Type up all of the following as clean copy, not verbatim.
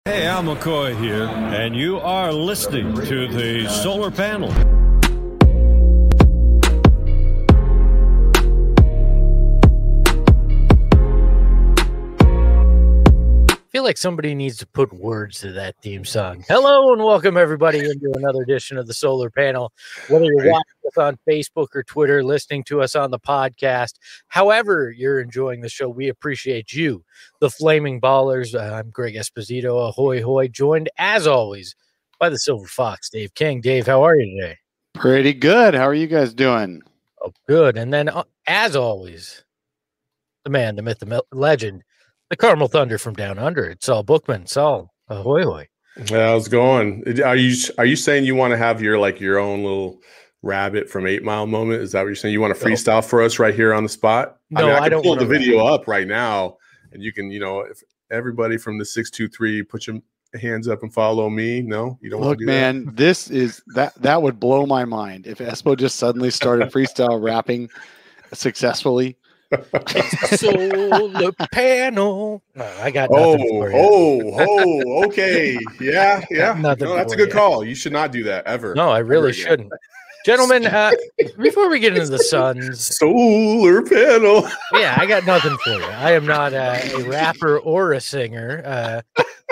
Hey, Al McCoy here, and you are listening to the Solar Panel. I feel like somebody needs to put words to that theme song. Hello and welcome everybody into another edition of the Solar Panel. Whether you're watching us on Facebook or Twitter, listening to us on the podcast, however you're enjoying the show, we appreciate you, the Flaming Ballers. I'm Greg Esposito, ahoy hoy, joined as always by the Silver Fox, Dave King. Dave, how are you today? Pretty good. How are you guys doing? Oh, good. And then as always, the man, the myth, the legend, the Carmel Thunder from down under. It's Saul Bookman. Saul, ahoy hoy. How's it going? Are you saying you want to have your own little rabbit from 8 Mile moment? Is that what you're saying? You want to freestyle for us right here on the spot? No, I don't pull the video up right now, and you can, if everybody from the 623 put your hands up and follow me. No, you don't. Look, man, that? This is that would blow my mind if Espo just suddenly started freestyle rapping successfully. Solar Panel. No, I got nothing for you. Okay. Yeah. No, that's a good call. You should not do that ever. No, I really shouldn't. Gentlemen, before we get into the Suns. Solar Panel. Yeah, I got nothing for you. I am not a rapper or a singer.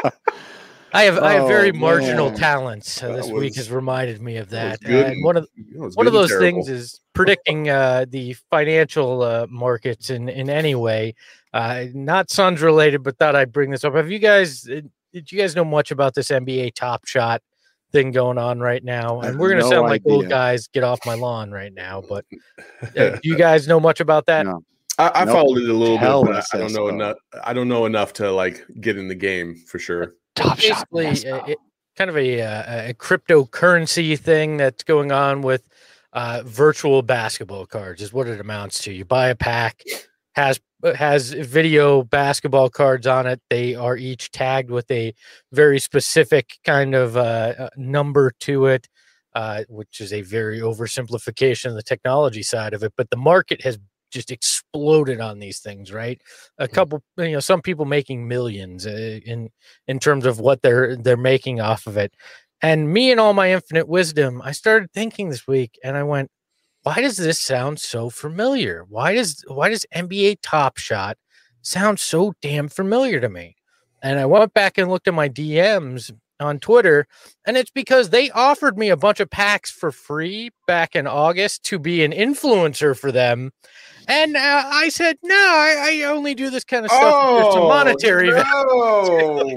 I have very marginal talents. This week has reminded me of that. And one of those things is predicting the financial markets in any way. Not Suns related, but thought I'd bring this up. Did you guys know much about this NBA Top Shot thing going on right now? And we're going to sound like old guys, get off my lawn right now. But do you guys know much about that? No. I followed it a little bit, but I don't know enough. I don't know enough to get in the game for sure. Basically, kind of a cryptocurrency thing that's going on with virtual basketball cards is what it amounts to. You buy a pack, has video basketball cards on it. They are each tagged with a very specific kind of number to it, which is a very oversimplification of the technology side of it. But the market has just exploded on these things, right? A couple, some people making millions in terms of what they're making off of it. And me and all my infinite wisdom, I started thinking this week and I went, why does this sound so familiar? Why does NBA Top Shot sound so damn familiar to me? And I went back and looked at my DMs on Twitter, and it's because they offered me a bunch of packs for free back in August to be an influencer for them. And I said, no, I only do this kind of stuff for some monetary value.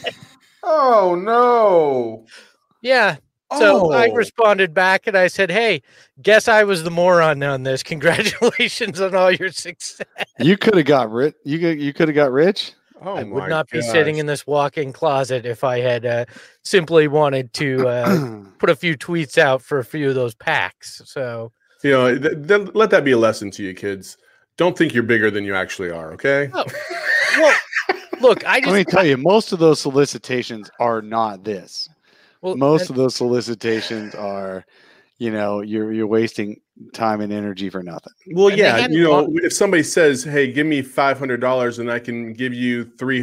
Oh, no. Yeah. So I responded back and I said, hey, guess I was the moron on this. Congratulations on all your success. You could have got rich. You could have got rich. Oh, I would not be sitting in this walk-in closet if I had simply wanted to put a few tweets out for a few of those packs. So, let that be a lesson to you kids. Don't think you're bigger than you actually are. Okay. Oh. Well, look, let me tell you, most of those solicitations are not this. Well, most of those solicitations are, you're wasting time and energy for nothing. Well, yeah, if somebody says, "Hey, give me $500 and I can give you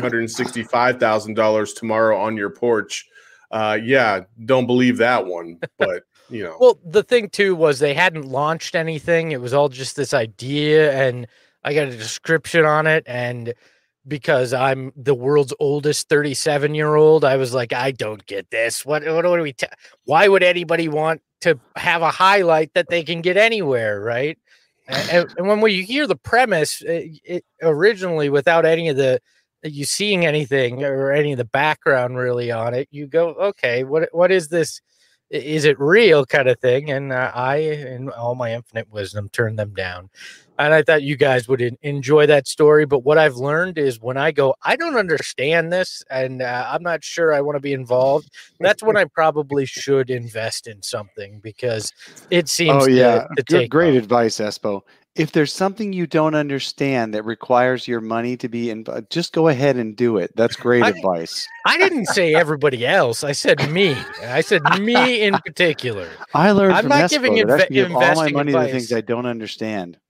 $365,000 tomorrow on your porch," don't believe that one. But well, the thing too was they hadn't launched anything; it was all just this idea, and I got a description on it, and because I'm the world's oldest 37-year-old, I was like, I don't get this. What do we? Why would anybody want to have a highlight that they can get anywhere, right? And when you hear the premise, it originally without any of you seeing anything or any of the background really on it, you go, okay, what is this? Is it real kind of thing? And I, in all my infinite wisdom, turned them down. And I thought you guys would enjoy that story. But what I've learned is when I go, I don't understand this, and I'm not sure I want to be involved, that's when I probably should invest in something because it seems to take great advice, Espo. If there's something you don't understand that requires your money to be in, just go ahead and do it. That's great advice. I didn't say everybody else. I said me. I said me in particular. I learned I'm from not Espo giving that I should give all my money advice to things I don't understand.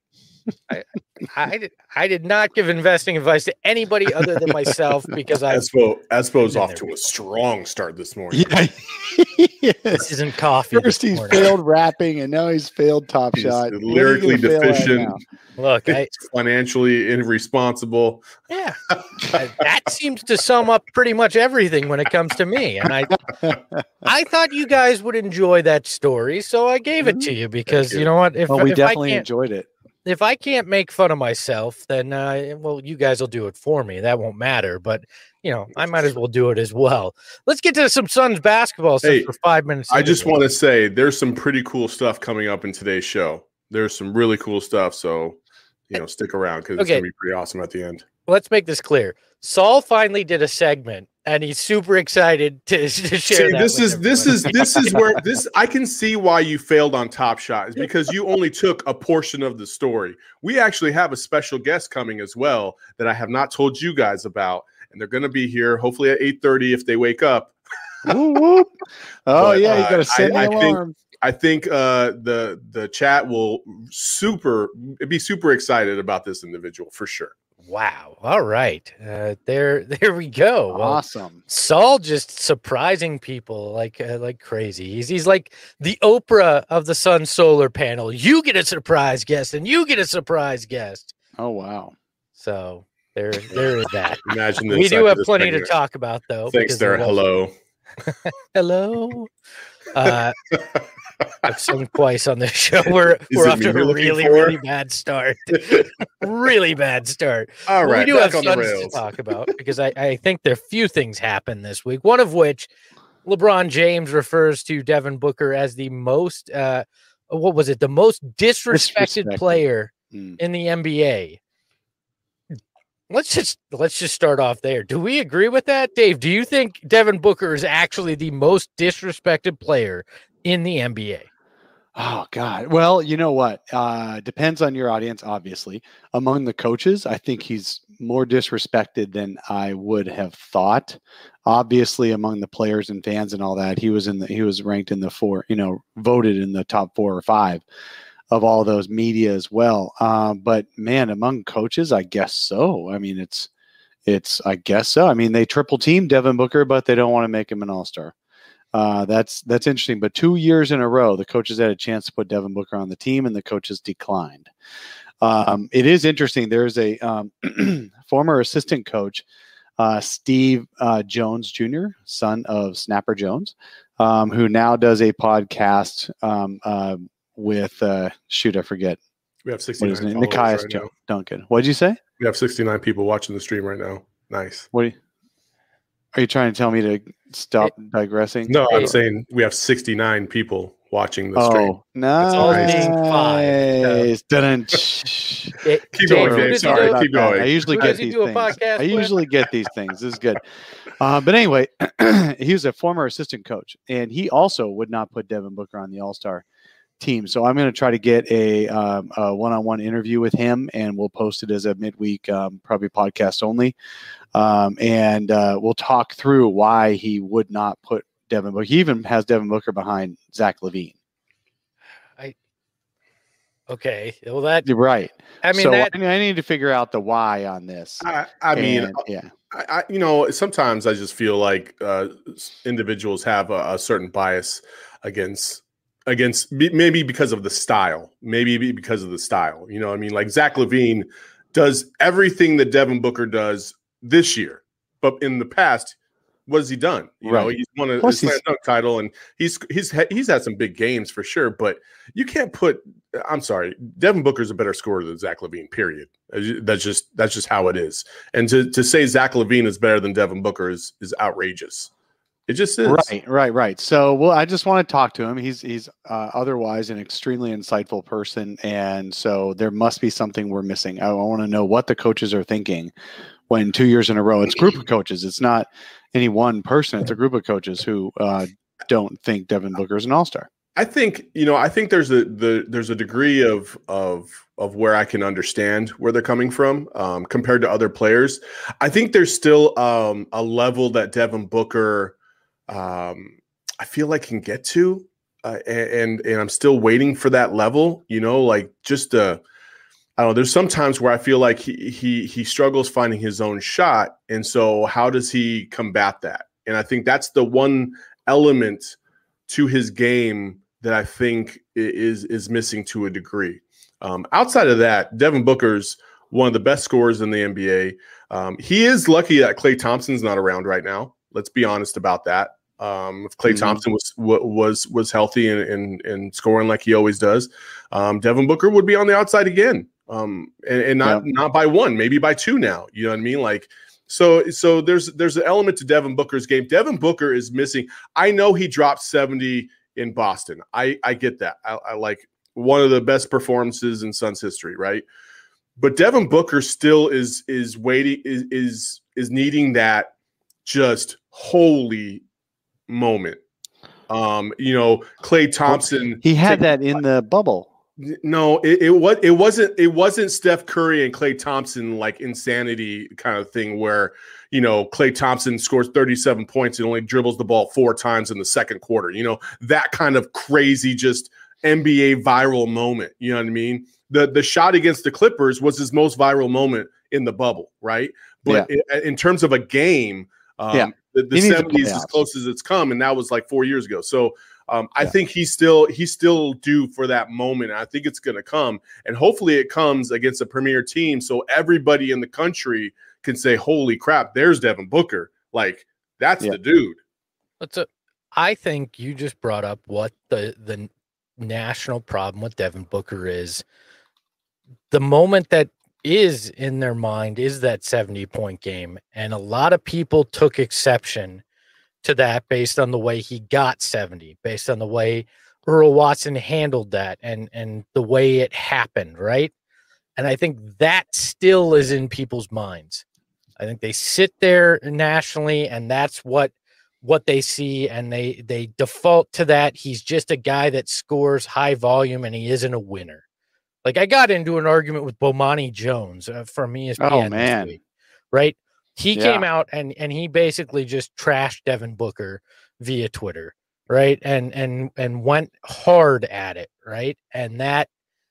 I did not give investing advice to anybody other than myself because Espo's off to a strong start this morning. Yeah. This isn't coffee. First he's failed rapping, and now he's failed Top Shot. Lyrically deficient. Look, financially irresponsible. Yeah, that seems to sum up pretty much everything when it comes to me. And I thought you guys would enjoy that story, so I gave it to you because you know what? We definitely enjoyed it. If I can't make fun of myself, then you guys will do it for me. That won't matter, but I might as well do it as well. Let's get to some Suns basketball for 5 minutes. I just want to say there's some pretty cool stuff coming up in today's show. There's some really cool stuff, so stick around because it's gonna be pretty awesome at the end. Let's make this clear. Saul finally did a segment, and he's super excited to share. This is where I can see why you failed on Top Shot is because you only took a portion of the story. We actually have a special guest coming as well that I have not told you guys about, and they're going to be here hopefully at 8:30 if they wake up. Whoop, whoop. Oh but, yeah, you got to send the alarm. I think the chat will be super excited about this individual for sure. Wow. All right. There we go. Awesome. Well, Saul just surprising people like crazy. He's like the Oprah of the Sun solar panel. You get a surprise guest and you get a surprise guest. Oh, wow. So there is that. Imagine we do have plenty to talk about though. Thanks there. Hello. Hello. I've sung twice on this show. We're off to a really bad start. Really bad start. All right, we do have Suns to talk about because I think there are few things happen this week. One of which, LeBron James refers to Devin Booker as the most the most disrespected player in the NBA. Let's just start off there. Do we agree with that, Dave? Do you think Devin Booker is actually the most disrespected player in the NBA? Oh God. Well, you know what? Depends on your audience, obviously. Among the coaches, I think he's more disrespected than I would have thought. Obviously, among the players and fans and all that, he was ranked in the voted in the top 4 or 5 of all those media as well. But man, among coaches, I guess so. I mean, I guess so. I mean, they triple team Devin Booker, but they don't want to make him an all-star. That's interesting. But 2 years in a row, the coaches had a chance to put Devin Booker on the team, and the coaches declined. It is interesting. There's a former assistant coach, Steve Jones Jr., son of Snapper Jones, who now does a podcast with I forget. We have 69 Nikias right Duncan. What did you say? We have 69 people watching the stream right now. Nice. Are you trying to tell me to stop digressing? No, I'm saying we have 69 people watching the stream. Oh, nice. Keep going, Dave. Sorry, keep going. I usually get these things. This is good. But anyway, he was a former assistant coach, and he also would not put Devin Booker on the All-Star team. So I'm going to try to get a one-on-one interview with him, and we'll post it as a midweek, probably podcast only. And we'll talk through why he would not put Devin Booker. He even has Devin Booker behind Zach LaVine. Okay. Well, that you're right. I mean, I need to figure out the why on this. Sometimes I just feel like individuals have a certain bias against maybe because of the style, You know what I mean? Like Zach LaVine does everything that Devin Booker does this year, but in the past, what has he done? You know, he's won a slam dunk title, and he's had some big games for sure. But you can't put. I'm sorry, Devin Booker's a better scorer than Zach LaVine. Period. That's just how it is. And to say Zach LaVine is better than Devin Booker is outrageous. It just is. Right. So, I just want to talk to him. He's otherwise an extremely insightful person, and so there must be something we're missing. I want to know what the coaches are thinking when 2 years in a row. It's a group of coaches. It's not any one person. It's a group of coaches who don't think Devin Booker is an all-star. I think there's a degree of where I can understand where they're coming from compared to other players. I think there's still a level that Devin Booker I feel like can get to, and I'm still waiting for that level. You know, like just I don't know. There's some times where I feel like he struggles finding his own shot, and so how does he combat that? And I think that's the one element to his game that I think is missing to a degree. Outside of that, Devin Booker's one of the best scorers in the NBA. He is lucky that Klay Thompson's not around right now. Let's be honest about that. If Klay Thompson was healthy and scoring like he always does, Devin Booker would be on the outside again. And not by one, maybe by two now. You know what I mean? Like, so there's an element to Devin Booker's game. Devin Booker is missing. I know he dropped 70 in Boston. I get that. I like one of the best performances in Suns history, right? But Devin Booker still is waiting, is needing that just holy moment. Klay Thompson. He had that in the bubble. No, it wasn't Steph Curry and Klay Thompson like insanity kind of thing where Klay Thompson scores 37 points and only dribbles the ball 4 times in the second quarter. That kind of crazy just NBA viral moment. You know what I mean? The shot against the Clippers was his most viral moment in the bubble, right? But in terms of a game, the 70s is as close as it's come, and that was like 4 years ago. So I think he's still due for that moment. And I think it's going to come, and hopefully it comes against a premier team, so everybody in the country can say, "Holy crap, there's Devin Booker! Like that's the dude." I think you just brought up what the national problem with Devin Booker is. The moment that is in their mind is that 70-point game, and a lot of people took exception to that based on the way he got 70, based on the way Earl Watson handled that and the way it happened, right? And I think that still is in people's minds. I think they sit there nationally, and that's what they see, and they default to that. He's just a guy that scores high volume, and he isn't a winner. Like, I got into an argument with Bomani Jones from ESPN this week, right? He came out and he basically just trashed Devin Booker via Twitter, right? And went hard at it, right? And that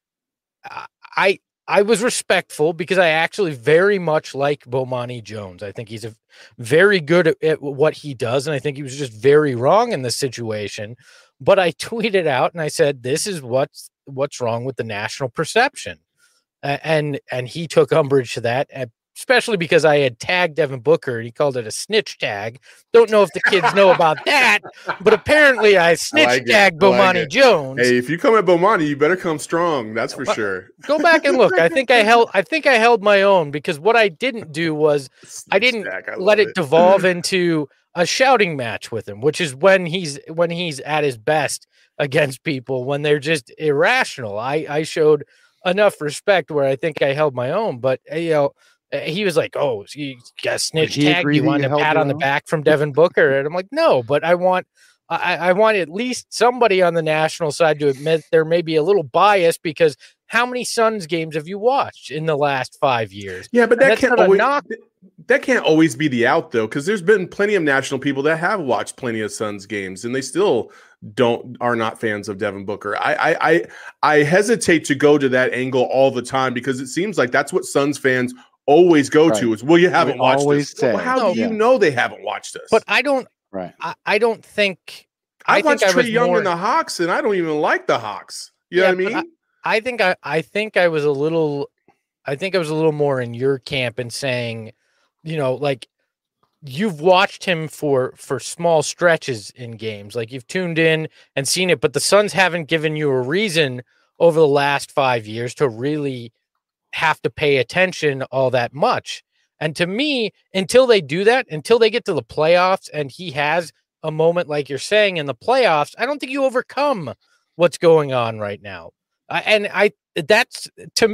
I was respectful because I actually very much like Bomani Jones. I think he's very good at what he does, and I think he was just very wrong in this situation. But I tweeted out and I said, "This is what's wrong with the national perception," and he took umbrage to that. Especially because I had tagged Devin Booker and he called it a snitch tag. Don't know if the kids know about that, but apparently I snitch tagged Bomani Jones. Hey, if you come at Bomani, you better come strong. That's for sure. Go back and look. I think I held my own, because what I didn't do was I didn't let it devolve into a shouting match with him, which is when he's at his best against people, when they're just irrational. I showed enough respect where I think I held my own, but he was like, "Oh, you got a snitch tag? You want a pat on the back from Devin Booker?" And I'm like, "No, but I want at least somebody on the national side to admit there may be a little bias, because how many Suns games have you watched in the last 5 years?" Yeah, but that can't always be the out, though, because there's been plenty of national people that have watched plenty of Suns games, and they still are not fans of Devin Booker. I hesitate to go to that angle all the time, because it seems like that's what Suns fans always go to is, "Well, you haven't watched this." Well, how do you know they haven't watched this? But I don't. Right. I don't think. I watched Trae Young and the Hawks, and I don't even like the Hawks. You know what I mean? I think I was a little more in your camp in saying, like, you've watched him for small stretches in games, like you've tuned in and seen it, but the Suns haven't given you a reason over the last 5 years to really have to pay attention all that much. And to me, until they do that, until they get to the playoffs and he has a moment like you're saying in the playoffs, I don't think you overcome what's going on right now. That's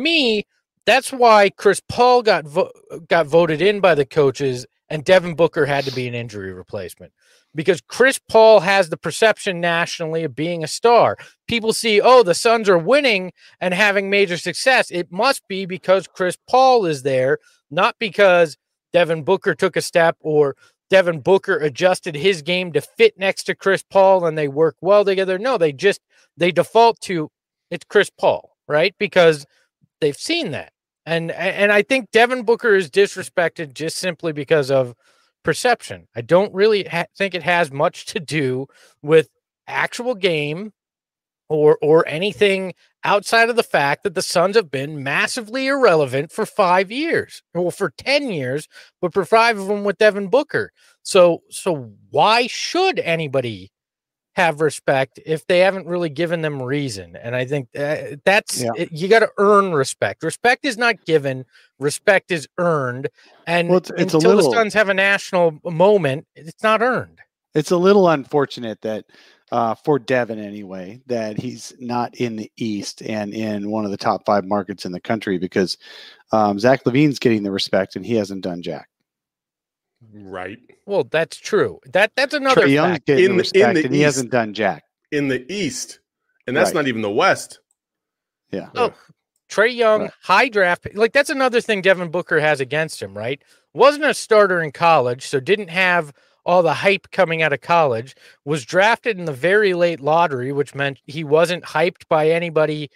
why Chris Paul got voted in by the coaches, and Devin Booker had to be an injury replacement, because Chris Paul has the perception nationally of being a star. People see, oh, the Suns are winning and having major success. It must be because Chris Paul is there, not because Devin Booker took a step or Devin Booker adjusted his game to fit next to Chris Paul and they work well together. No, they default to it's Chris Paul, right? Because they've seen that. And I think Devin Booker is disrespected just simply because of perception. I don't really think it has much to do with actual game or anything outside of the fact that the Suns have been massively irrelevant for 5 years, or for 10 years, but for 5 of them with Devin Booker. So why should anybody have respect if they haven't really given them reason? And I think that's you got to earn respect. Respect is not given, respect is earned. And it's until the Suns have a national moment, it's not earned. It's a little unfortunate that for Devin anyway, that he's not in the East and in one of the top 5 markets in the country, because Zach LaVine's getting the respect and he hasn't done jack. Right. Well, that's true. That's another Trae Young's fact. getting respect and he hasn't done jack. In the East. And that's not even the West. Yeah. Oh, Trae Young, high draft. Like, that's another thing Devin Booker has against him, right? Wasn't a starter in college, so didn't have all the hype coming out of college, was drafted in the very late lottery, which meant he wasn't hyped by anybody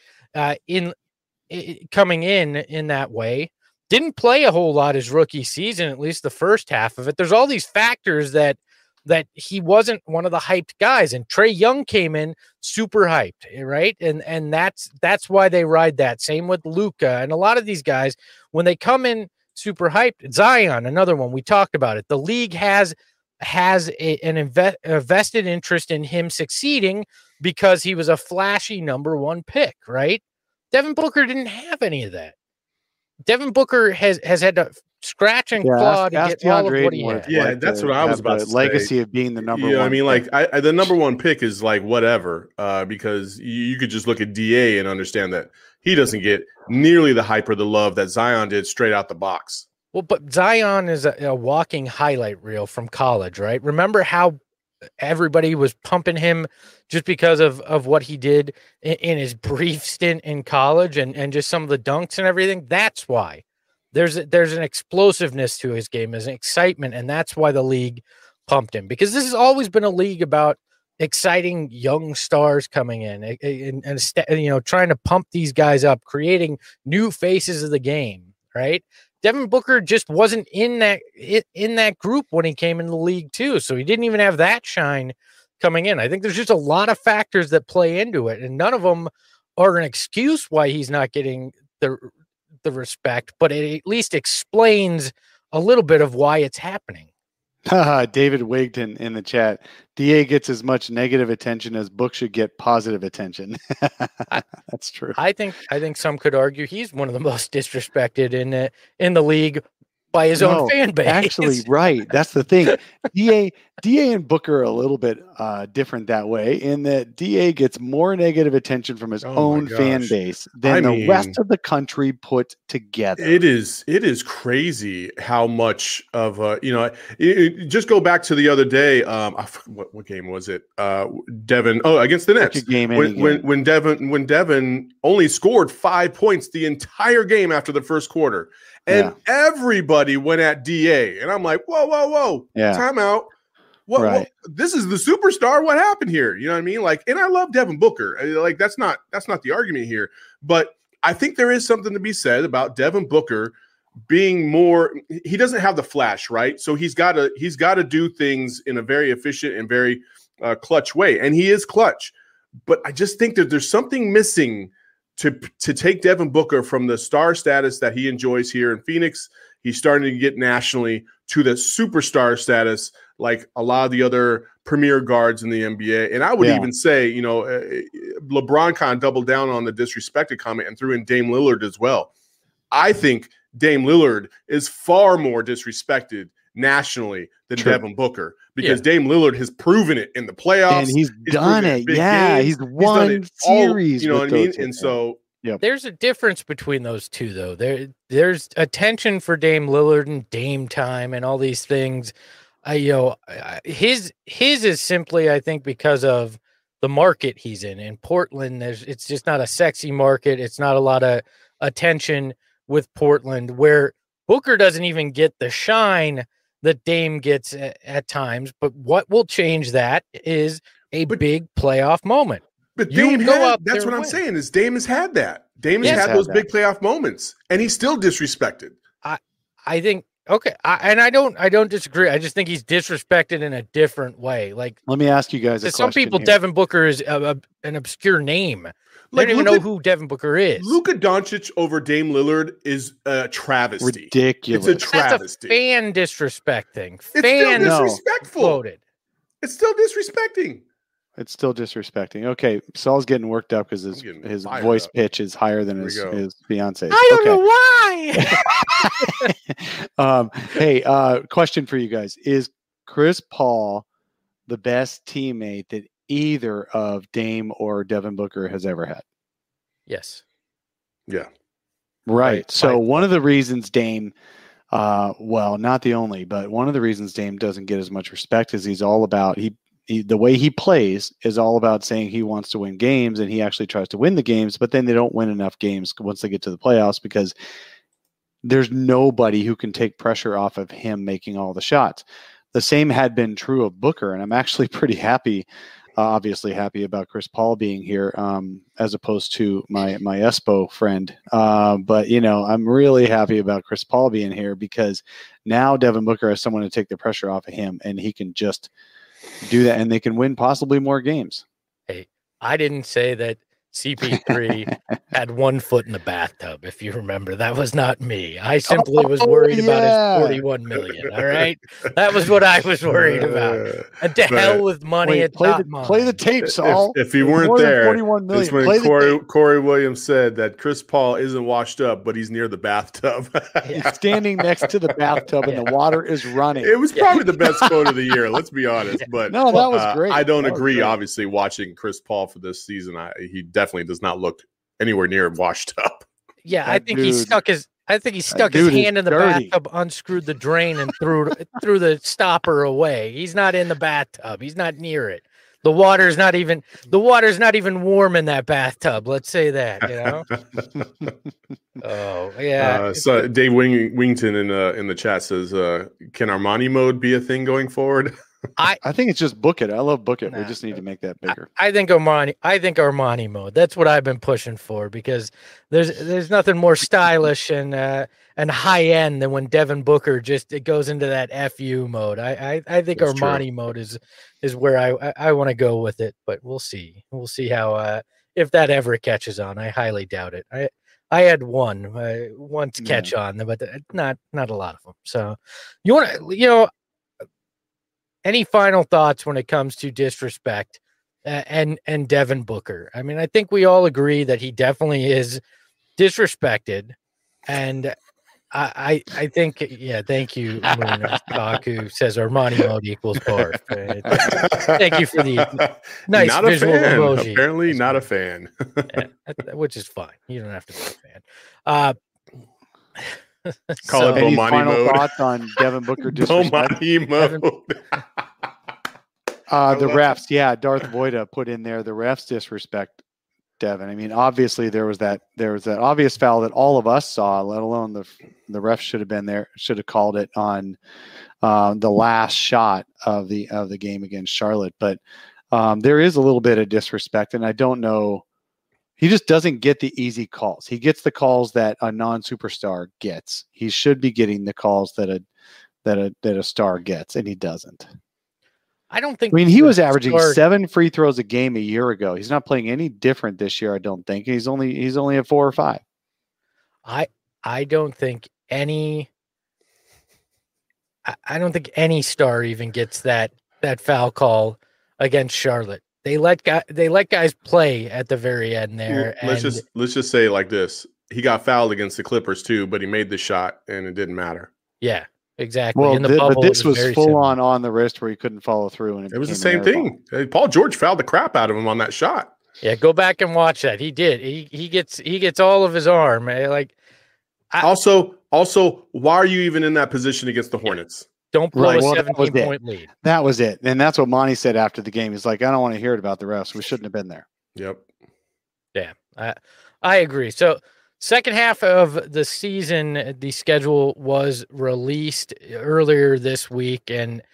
coming in that way. Didn't play a whole lot his rookie season, at least the first half of it. There's all these factors that he wasn't one of the hyped guys, and Trae Young came in super hyped, right? And that's why they ride that. Same with Luka and a lot of these guys when they come in super hyped. Zion, another one, we talked about it. The league has a vested interest in him succeeding because he was a flashy number 1 pick, right? Devin Booker didn't have any of that. Devin Booker has had to scratch and claw to get all of what he had. Yeah, that's what I was about to say. Legacy of being the number 1. I mean, like the number 1 pick is like whatever, because you could just look at DA and understand that he doesn't get nearly the hype or the love that Zion did straight out the box. Well, but Zion is a walking highlight reel from college, right? Remember how everybody was pumping him just because of what he did in his brief stint in college and just some of the dunks and everything? That's why. There's an explosiveness to his game, there's an excitement, and that's why the league pumped him. Because this has always been a league about exciting young stars coming in and trying to pump these guys up, creating new faces of the game, right? Devin Booker just wasn't in that group when he came in the league too. So he didn't even have that shine coming in. I think there's just a lot of factors that play into it, and none of them are an excuse why he's not getting the respect, but it at least explains a little bit of why it's happening. David Wigton in the chat. DA gets as much negative attention as Book should get positive attention. That's true. I think some could argue he's one of the most disrespected in the league by his own fan base. Actually, right. That's the thing. DA and Booker are a little bit different that way, in that DA gets more negative attention from his own fan base than the rest of the country put together. It is crazy how much of just go back to the other day. What game was it? Devin. Oh, against the Nets. When Devin only scored 5 points the entire game after the first quarter. And everybody went at DA. And I'm like, whoa. Yeah. Time out. What? This is the superstar. What happened here? You know what I mean? Like, and I love Devin Booker. Like, that's not the argument here. But I think there is something to be said about Devin Booker being more, he doesn't have the flash, right? So he's got to do things in a very efficient and very clutch way. And he is clutch. But I just think that there's something missing to take Devin Booker from the star status that he enjoys here in Phoenix. He's starting to get nationally to the superstar status like a lot of the other premier guards in the NBA. And I would even say, LeBron kind of doubled down on the disrespected comment and threw in Dame Lillard as well. I think Dame Lillard is far more disrespected nationally than Devin Booker, because Dame Lillard has proven it in the playoffs. And he's done it. Yeah, games. he's won series. You know what I mean? And so there's a difference between those two, though. There's attention for Dame Lillard and Dame time and all these things. His is simply, I think, because of the market he's in. In Portland, it's just not a sexy market. It's not a lot of attention with Portland, where Booker doesn't even get the shine that Dame gets at times. But what will change that is big playoff moment. But Dame that's what I'm saying, is Dame has had that. Dame has had those big playoff moments, and he's still disrespected. I think okay, I don't disagree. I just think he's disrespected in a different way. Like, let me ask you guys a question. Some people, here. Devin Booker is an obscure name. They don't even know who Devin Booker is. Luka Doncic over Dame Lillard is a travesty. Ridiculous. It's a travesty. That's a fan disrespecting. It's still disrespectful. Quoted. It's still disrespecting. It's still disrespecting. Okay, Saul's getting worked up because his voice pitch is higher than his fiance's. I don't know why. Hey, question for you guys: is Chris Paul the best teammate that either of Dame or Devin Booker has ever had? Yes. Yeah. Right. So one of the reasons Dame, well, not the only, but one of the reasons Dame doesn't get as much respect is he's all about the way he plays is all about saying he wants to win games, and he actually tries to win the games, but then they don't win enough games once they get to the playoffs because there's nobody who can take pressure off of him making all the shots. The same had been true of Booker, and I'm actually pretty happy, obviously happy about Chris Paul being here, as opposed to my Espo friend. But, I'm really happy about Chris Paul being here because now Devin Booker has someone to take the pressure off of him, and he can just do that, and they can win possibly more games. Hey, I didn't say that CP3 had 1 foot in the bathtub. If you remember, that was not me. I simply was worried about his 41 million. All right, that was what I was worried about. And to hell with money. It's not mine. Play the tape, Saul. If you weren't there, 41 million. It's when Corey Williams said that Chris Paul isn't washed up, but he's near the bathtub. He's standing next to the bathtub, and the water is running. It was probably the best quote of the year. Let's be honest. But no, that was great. I don't agree. Obviously, watching Chris Paul for this season, he definitely does not look anywhere near washed up. Yeah, I think he stuck his hand in the bathtub, unscrewed the drain, and threw the stopper away. He's not in the bathtub. He's not near it. The water's not even warm in that bathtub. Let's say that, Oh yeah. So Dave Wington in the chat says, "Can Armani mode be a thing going forward?" I think it's just book it. I love book it. We just need to make that bigger. I think Armani mode. That's what I've been pushing for because there's nothing more stylish and high end than when Devin Booker it goes into that FU mode. I think that's Armani true. Mode is where I want to go with it, but we'll see. We'll see how if that ever catches on. I highly doubt it. I had one to catch on, but not a lot of them. So you want to any final thoughts when it comes to disrespect and Devin Booker? I mean, I think we all agree that he definitely is disrespected, and I think thank you, Kaku says Armani mode equals barf. Thank you for the nice not visual emoji. Apparently not a fan. Which is fine. You don't have to be a fan. Call it Bomani final mode. Thoughts on Devin Booker disrespect? Bomani mode. The refs, Darth Voida put in there the refs disrespect Devin. I mean, obviously there was that obvious foul that all of us saw, let alone the refs should have been there, should have called it on the last shot of the game against Charlotte. But there is a little bit of disrespect, and I don't know. He just doesn't get the easy calls. He gets the calls that a non-superstar gets. He should be getting the calls that a star gets, and he doesn't. I don't think. I mean, he was averaging 7 free throws a game a year ago. He's not playing any different this year, I don't think. He's only at 4 or 5. I don't think any. I don't think any star even gets that foul call against Charlotte. They let guys play at the very end there. Let's just say it like this: he got fouled against the Clippers too, but he made the shot, and it didn't matter. Yeah, exactly. Well, but this was full on the wrist where he couldn't follow through, and it was the same thing. Paul George fouled the crap out of him on that shot. Yeah, go back and watch that. He did. He gets all of his arm. Also, why are you even in that position against the Hornets? Don't blow a 17-point lead. That was it. And that's what Monty said after the game. He's like, I don't want to hear it about the refs. We shouldn't have been there. Yep. Yeah, I agree. So second half of the season, the schedule was released earlier this week. And,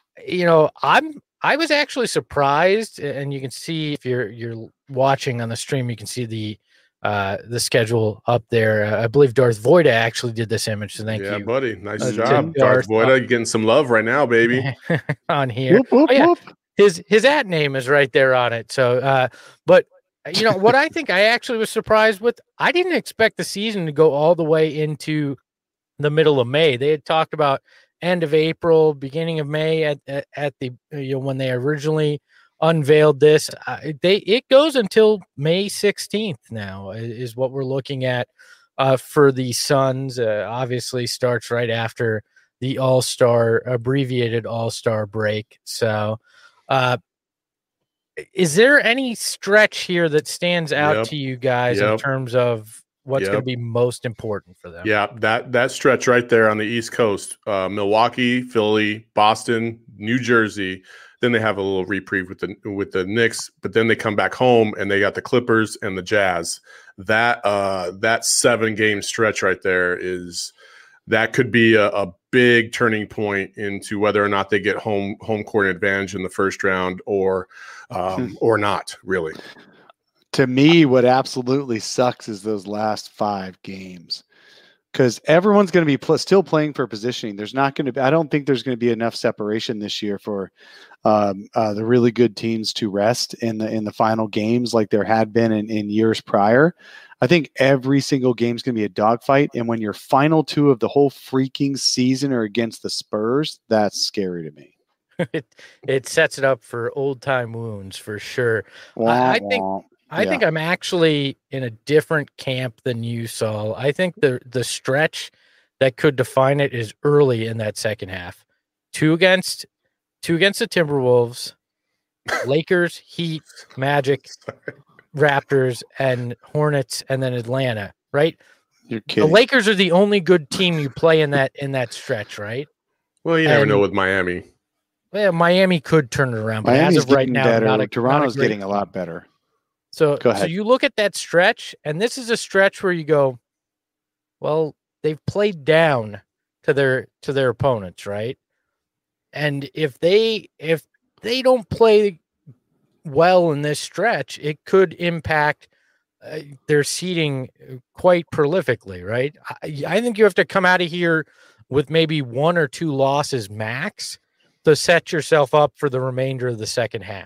I was actually surprised, and you can see if you're watching on the stream, you can see the the schedule up there. I believe Darth Voida actually did this image, so thank you. Yeah, buddy. Nice to job. Darth Darth Voida, you're getting some love right now, baby. on here. Whoop, whoop, Oh, yeah. whoop. His ad name is right there on it. So, but you know what I think I actually was surprised with? I didn't expect the season to go all the way into the middle of May. They had talked about end of April, beginning of May at the when they originally unveiled this. It goes until May 16th now is what we're looking at for the Suns. Obviously starts right after the abbreviated All-Star break. So is there any stretch here that stands out to you guys in terms of what's going to be most important for them? Yeah, that stretch right there on the East Coast, Milwaukee, Philly, Boston, New Jersey. Then they have a little reprieve with the Knicks, but then they come back home and they got the Clippers and the Jazz. That 7-game stretch right there could be a big turning point into whether or not they get home court advantage in the first round or not, really. To me, what absolutely sucks is those last 5 games, because everyone's going to be still playing for positioning. There's not going to be. I don't think there's going to be enough separation this year for the really good teams to rest in the final games like there had been in years prior. I think every single game is going to be a dogfight, and when your final 2 of the whole freaking season are against the Spurs, that's scary to me. It sets it up for old time wounds for sure. Wah, I think I'm actually in a different camp than you, Saul. I think the stretch that could define it is early in that second half. 2 against the Timberwolves, Lakers, Heat, Magic, Raptors, and Hornets, and then Atlanta, right? You're kidding. The Lakers are the only good team you play in that stretch, right? Well, you never know with Miami. Well, Miami could turn it around, but Miami's as of right now, better. Toronto's getting a lot better. So you look at that stretch, and this is a stretch where you go, well, they've played down to their opponents, right? And if they don't play well in this stretch, it could impact their seeding quite prolifically, right? I think you have to come out of here with maybe 1 or 2 losses max to set yourself up for the remainder of the second half.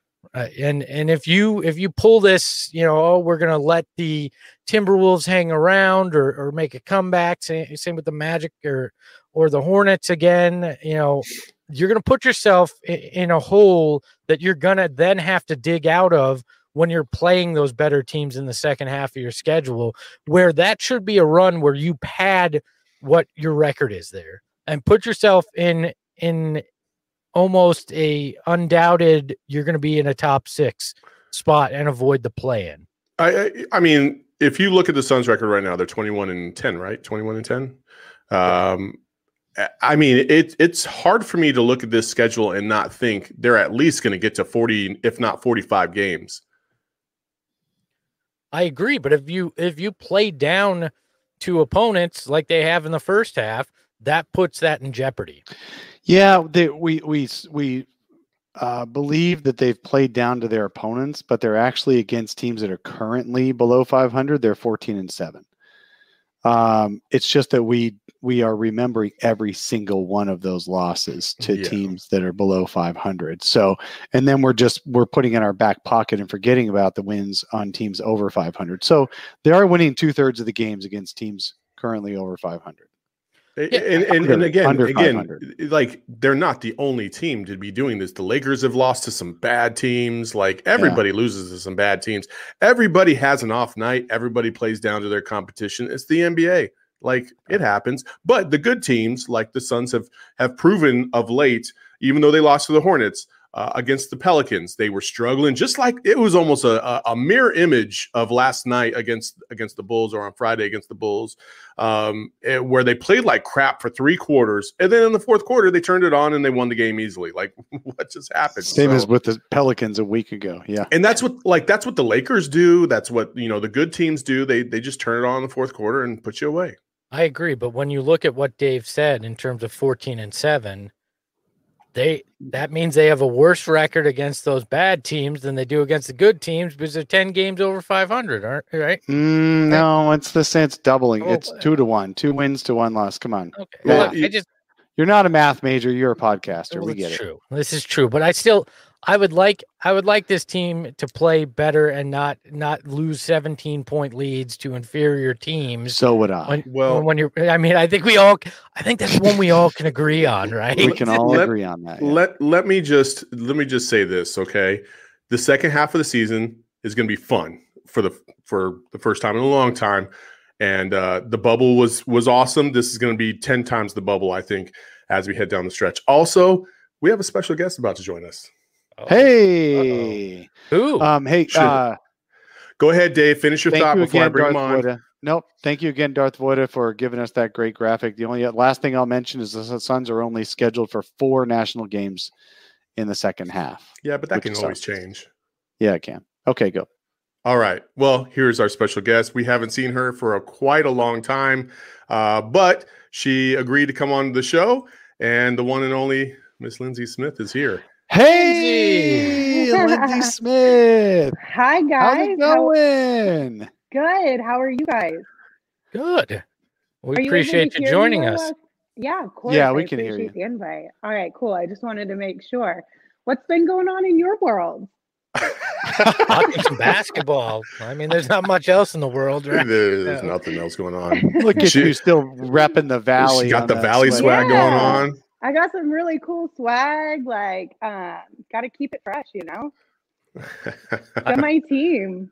And if you pull this, we're going to let the Timberwolves hang around or make a comeback, same with the Magic or the Hornets again, you're going to put yourself in a hole that you're going to then have to dig out of when you're playing those better teams in the second half of your schedule, where that should be a run where you pad what your record is there and put yourself in almost a undoubted you're going to be in a top 6 spot and avoid the play-in. I mean, if you look at the Suns record right now, they're 21-10, right? 21-10. I mean, it's hard for me to look at this schedule and not think they're at least going to get to 40, if not 45 games. I agree, but if you play down to opponents like they have in the first half, that puts that in jeopardy. Yeah, we believe that they've played down to their opponents, but they're actually against teams that are currently below 500. They're 14-7. It's just that we are remembering every single one of those losses to teams that are below 500. So, and then we're putting in our back pocket and forgetting about the wins on teams over 500. So they are winning 2/3 of the games against teams currently over 500. And again, like they're not the only team to be doing this. The Lakers have lost to some bad teams. Like everybody loses to some bad teams. Everybody has an off night. Everybody plays down to their competition. It's the NBA. Like it happens. But the good teams, like the Suns, have proven of late, even though they lost to the Hornets, against the Pelicans, they were struggling. Just like it was almost a mirror image of last night against the Bulls, or on Friday against the Bulls, where they played like crap for 3 quarters, and then in the fourth quarter they turned it on and they won the game easily. Like what just happened? Same as with the Pelicans a week ago. Yeah, and that's what the Lakers do. That's what the good teams do. They just turn it on in the fourth quarter and put you away. I agree, but when you look at what Dave said in terms of 14-7. that means they have a worse record against those bad teams than they do against the good teams because they're 10 games over 500, aren't right? No, it's the sense doubling. Oh, It's 2-1, 2 wins to 1 loss. Come on. Okay. Well, Well, you're not a math major. You're a podcaster. We get it. True. This is true, but I would like this team to play better and not lose 17-point leads to inferior teams. So would I. When you're, I think that's one we all can agree on, right? We can all agree on that. Yeah. Let me just say this, okay? The second half of the season is going to be fun for the first time in a long time, and the bubble was awesome. This is going to be 10 times the bubble, I think, as we head down the stretch. Also, we have a special guest about to join us. Hey. Who? Go ahead, Dave. Finish your thought before I bring him on. Voida. Nope. Thank you again, Darth Voida, for giving us that great graphic. The only last thing I'll mention is the Suns are only scheduled for 4 national games in the second half. Yeah, but that can always change. Yeah, it can. Okay, go. All right. Well, here's our special guest. We haven't seen her for quite a long time, but she agreed to come on the show, and the one and only Miss Lindsay Smith is here. Hey, Lindsay Smith. Hi, guys. How's it going? Good. How are you guys? Good. We appreciate you joining us. Yeah, of course. Yeah, we can hear you. The invite. All right, cool. I just wanted to make sure. What's been going on in your world? Watching some basketball. I mean, there's not much else in the world, right? There's nothing else going on. Look at you still repping the Valley. She got the Valley swag going on. I got some really cool swag. Like, got to keep it fresh, you know. Got my team.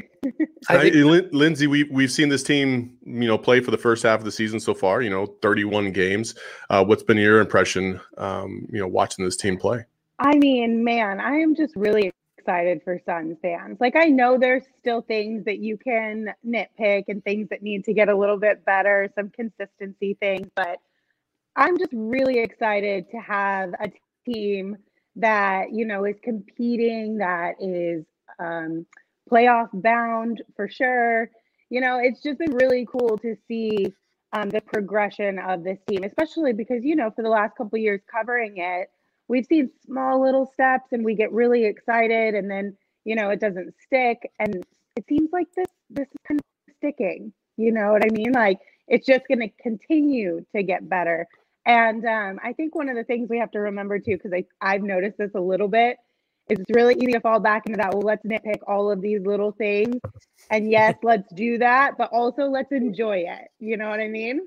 Lindsay, we've seen this team, play for the first half of the season so far. 31 games. What's been your impression, watching this team play? I mean, man, I am just really excited for Suns fans. Like, I know there's still things that you can nitpick and things that need to get a little bit better, some consistency things, but I'm just really excited to have a team that, is competing, that is playoff bound for sure. It's just been really cool to see the progression of this team, especially because, for the last couple of years covering it, we've seen small little steps and we get really excited and then, it doesn't stick. And it seems like this is kind of sticking, you know what I mean? Like, it's just going to continue to get better. And I think one of the things we have to remember too, because I've noticed this a little bit, is it's really easy to fall back into that, well, let's nitpick all of these little things. And yes, let's do that, but also let's enjoy it. You know what I mean?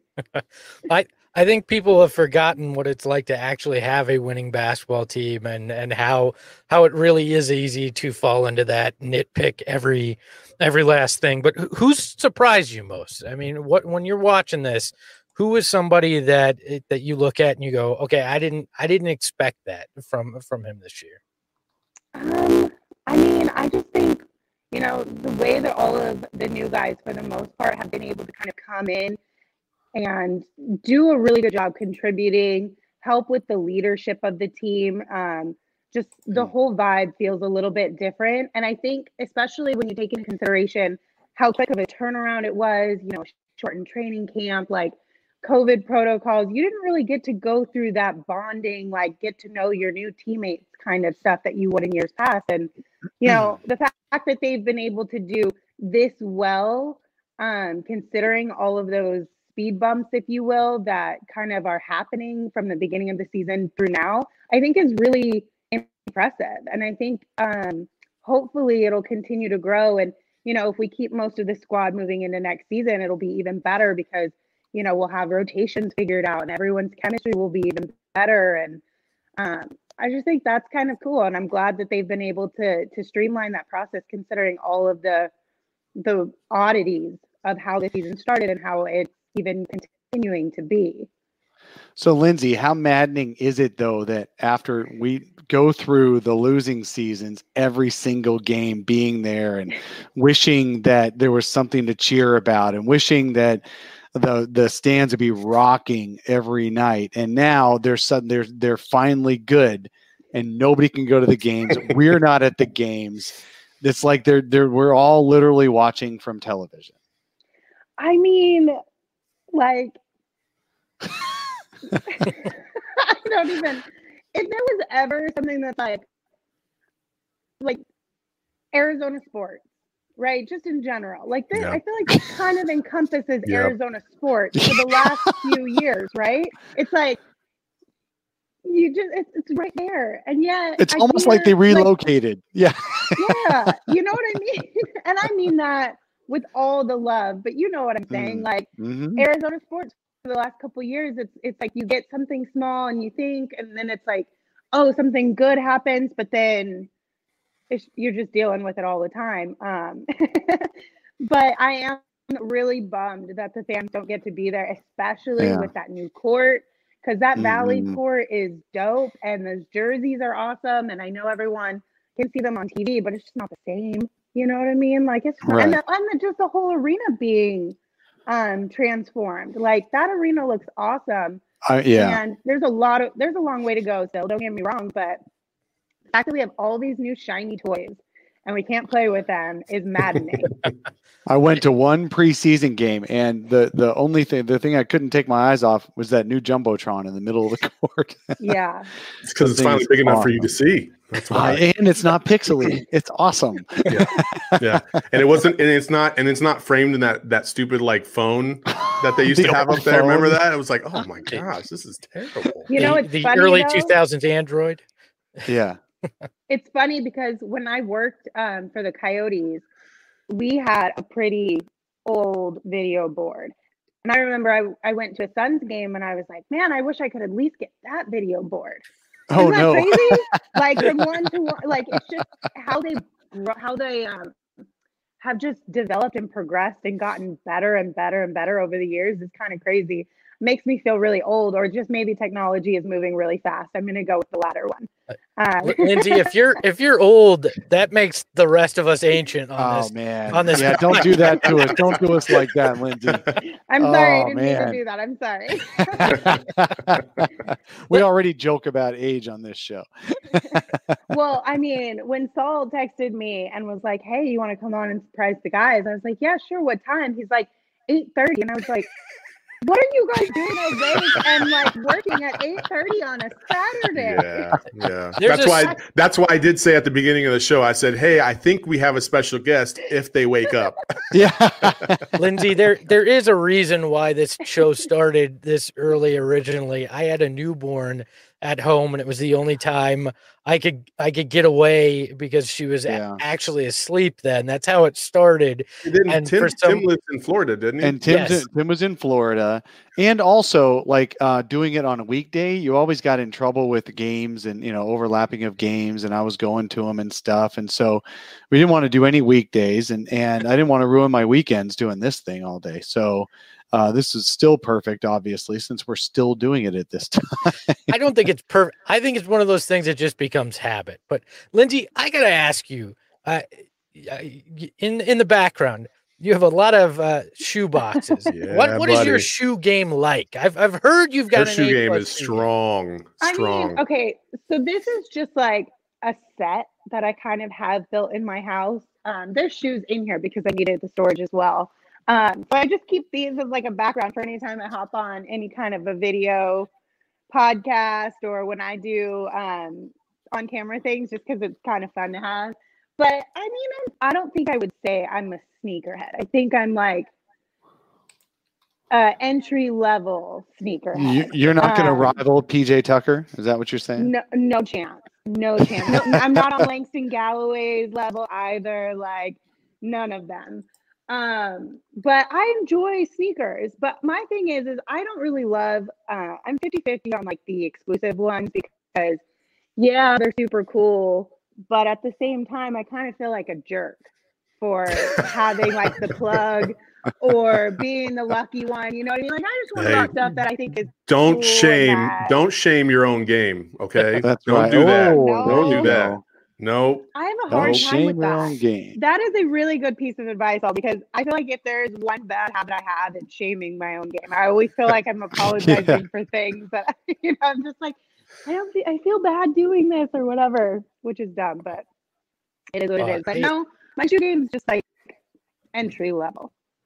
I think people have forgotten what it's like to actually have a winning basketball team and how it really is easy to fall into that nitpick every last thing. But who's surprised you most? I mean, when you're watching this, who is somebody that you look at and you go, okay, I didn't expect that from him this year? I mean, I just think, the way that all of the new guys, for the most part, have been able to kind of come in and do a really good job contributing, help with the leadership of the team. Just the whole vibe feels a little bit different. And I think, especially when you take into consideration how quick of a turnaround it was, shortened training camp, like COVID protocols, you didn't really get to go through that bonding, like get to know your new teammates kind of stuff that you would in years past. And, the fact that they've been able to do this well, considering all of those speed bumps, if you will, that kind of are happening from the beginning of the season through now, I think is really impressive. And I think hopefully it'll continue to grow. And, if we keep most of the squad moving into next season, it'll be even better because we'll have rotations figured out and everyone's chemistry will be even better. And I just think that's kind of cool. And I'm glad that they've been able to streamline that process, considering all of the oddities of how the season started and how it's even continuing to be. So, Lindsay, how maddening is it, though, that after we go through the losing seasons, every single game being there and wishing that there was something to cheer about and wishing that the stands would be rocking every night, and now they're finally good and nobody can go to the games. We're not at the games. It's like we're all literally watching from television. I mean, like I don't even if there was ever something that's like Arizona sports, right? Just in general, like this, Yeah. I feel like this kind of encompasses Yep. Arizona sports for the last few years, right? It's like you just it's right there, and yet It's I almost like they hear, relocated. Yeah. yeah, you know what I mean? And I mean that with all the love, but you know what I'm saying? Like Mhm. Arizona sports for the last couple of years, it's like you get something small and you think, and then it's like, oh, something good happens, but then you're just dealing with it all the time. But I am really bummed that the fans don't get to be there, especially Yeah. with that new court, because that Valley Mhm. court is dope and those jerseys are awesome. And I know everyone can see them on TV, but it's just not the same. You know what I mean? Like it's not, Right. and just the whole arena being transformed. Like that arena looks awesome. Yeah. And there's a long way to go still, don't get me wrong, but the fact that we have all these new shiny toys and we can't play with them is maddening. I went to one preseason game, and the thing I couldn't take my eyes off was that new jumbotron in the middle of the court. Yeah. It's because it's thing finally is big enough for you awesome. to see. That's why. And it's not pixely. It's awesome. Yeah, and it's not framed in that stupid like phone that they used The to have up old there. Remember phone. that? It was like, oh my gosh, this is terrible. You know, it's the funny, early though? 2000s Android. Yeah. It's funny because when I worked for the Coyotes, we had a pretty old video board. And I remember I went to a Suns game and I was like, man, I wish I could at least get that video board. Oh Isn't that no. crazy? Like from one to one, like it's just how they have just developed and progressed and gotten better and better and better over the years is kind of crazy. Makes me feel really old, or just maybe technology is moving really fast. I'm going to go with the latter one. Lindsay, if you're old, that makes the rest of us ancient on Oh this. man. on this Yeah, don't do that to us. Don't do us like that, Lindsay. I'm sorry, I Oh, didn't mean to man. do that. I'm sorry. We already joke about age on this show. Well, I mean, when Saul texted me and was like, "Hey, you want to come on and surprise the guys?" I was like, "Yeah, sure. What time?" He's like, 8:30, and I was like, "What are you guys doing awake and like working at 8:30 on a Saturday?" Yeah. That's why I did say at the beginning of the show, I said, hey, I think we have a special guest if they wake up. Yeah. Lindsay, there is a reason why this show started this early originally. I had a newborn at home, and it was the only time I could get away because she was actually asleep then. That's how it started. And Tim lives in Florida, didn't he? And Tim was in Florida. And also, like doing it on a weekday, you always got in trouble with games and, overlapping of games. And I was going to them and stuff. And so we didn't want to do any weekdays. And I didn't want to ruin my weekends doing this thing all day. So this is still perfect, obviously, since we're still doing it at this time. I don't think it's perfect. I think it's one of those things that just becomes habit. But Lindsay, I got to ask you, in the background, you have a lot of shoe boxes. Yeah, what is your shoe game like? I've heard you've got Her an shoe game is shoe strong. I mean, okay, so this is just like a set that I kind of have built in my house. There's shoes in here because I needed the storage as well. So I just keep these as like a background for any time I hop on any kind of a video podcast or when I do on camera things, just because it's kind of fun to have. But I mean, I don't think I would say I'm a sneakerhead. I think I'm like entry level sneakerhead. You're not going to rival PJ Tucker? Is that what you're saying? No chance. No chance. No, I'm not on Langston Galloway's level either. Like none of them. But I enjoy sneakers. But my thing is I don't really love, I'm 50-50 on like the exclusive ones because yeah, they're super cool. But at the same time, I kind of feel like a jerk for having like the plug or being the lucky one. You know what I mean? Like I just want to rock stuff that I think is don't cool shame your own game. Okay. That's don't right. do that. No. Don't do that. No. I have a hard time with that. Game. That is a really good piece of advice, all because I feel like if there's one bad habit I have, it's shaming my own game. I always feel like I'm apologizing for things that I'm just like, I feel bad doing this or whatever, which is dumb, but it is what it is. But no, my shoe game is just like entry level.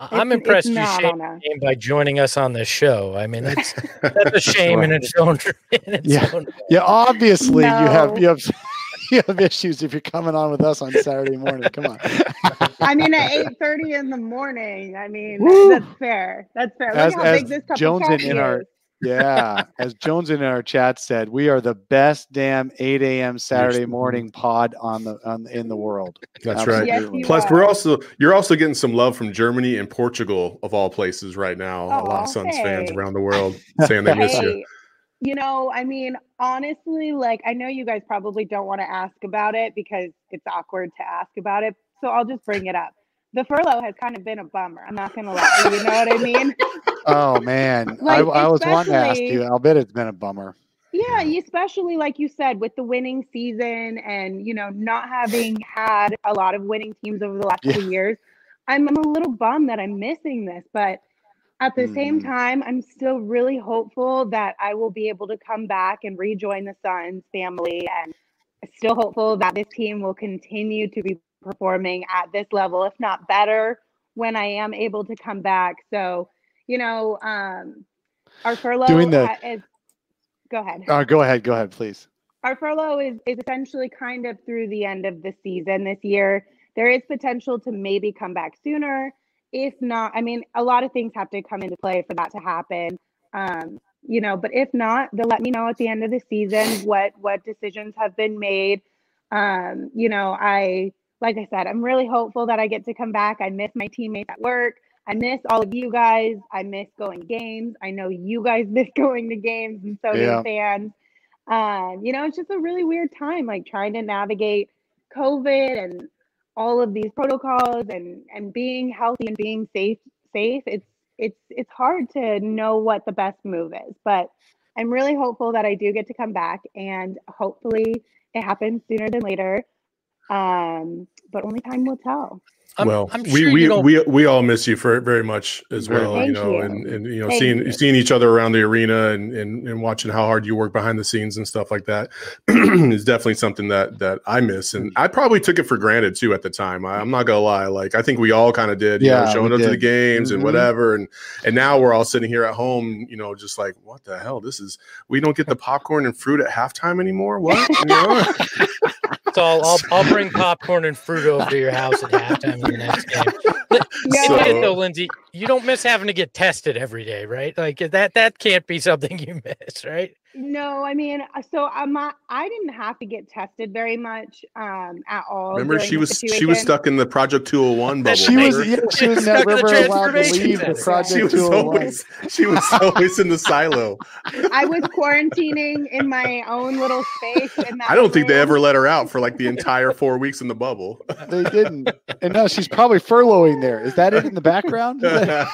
I'm It's impressed you not shamed on us. the game by joining us on this show. I mean, that's a shame in its own. Own Yeah, obviously you have No. you have issues if you're coming on with us on Saturday morning. Come on. I mean, at 8:30 in the morning. I mean, Woo! that's fair. That's fair. Look how big this cup Jones of coffee in our is. as Jones in our chat said, we are the best damn 8 a.m. Saturday morning pod in the world. That's right. Yes, you Plus, are. you're also getting some love from Germany and Portugal of all places right now. A lot of Aw, Suns fans hey. around the world saying they miss you. Hey, you know, I mean, honestly, like, I know you guys probably don't want to ask about it because it's awkward to ask about it. So I'll just bring it up. The furlough has kind of been a bummer. I'm not going to lie. You know what I mean? Oh man, Like, I was wanting to ask especially- you. I'll bet it's been a bummer. Yeah, especially like you said, with the winning season and, you know, not having had a lot of winning teams over the last Yeah. couple years, I'm a little bummed that I'm missing this. But at the same Mhm. time, I'm still really hopeful that I will be able to come back and rejoin the Suns family. And still hopeful that this team will continue to be performing at this level, if not better, when I am able to come back. So, you know, our furlough Doing the- is. Go ahead. Go ahead, please. Our furlough is essentially kind of through the end of the season this year. There is potential to maybe come back sooner. If not, I mean, a lot of things have to come into play for that to happen. You know, but if not, they'll let me know at the end of the season what decisions have been made. You know, like I said, I'm really hopeful that I get to come back. I miss my teammates at work. I miss all of you guys. I miss going to games. I know you guys miss going to games, and so do fans. You know, it's just a really weird time, like trying to navigate COVID and all of these protocols and being healthy and being safe. It's hard to know what the best move is, but I'm really hopeful that I do get to come back, and hopefully it happens sooner than later. But only time will tell. I'm sure we all miss you very much as well. Thank you know, you. and you know, Thank you. seeing each other around the arena and watching how hard you work behind the scenes and stuff like that is definitely something that I miss. And I probably took it for granted too at the time. I'm not gonna lie. Like, I think we all kind of did, you know, showing up to the games and whatever. And now we're all sitting here at home, you know, just like, what the hell? We don't get the popcorn and fruit at halftime anymore. What? You know? So I'll bring popcorn and fruit over to your house at halftime of the next game. No. Admit it though, Lindsay, you don't miss having to get tested every day, right? Like that can't be something you miss, right? No, I mean, so I didn't have to get tested very much at all. Remember, during she the was situation. stuck in the Project 201 bubble. She was Stuck in the never allowed to transformation leave the center. Project 201. She was always in the silo. I was quarantining in my own little space. In that I don't think they room. ever let her out for like the entire 4 weeks in the bubble. They didn't. And now she's probably furloughing there. Is that it in the background?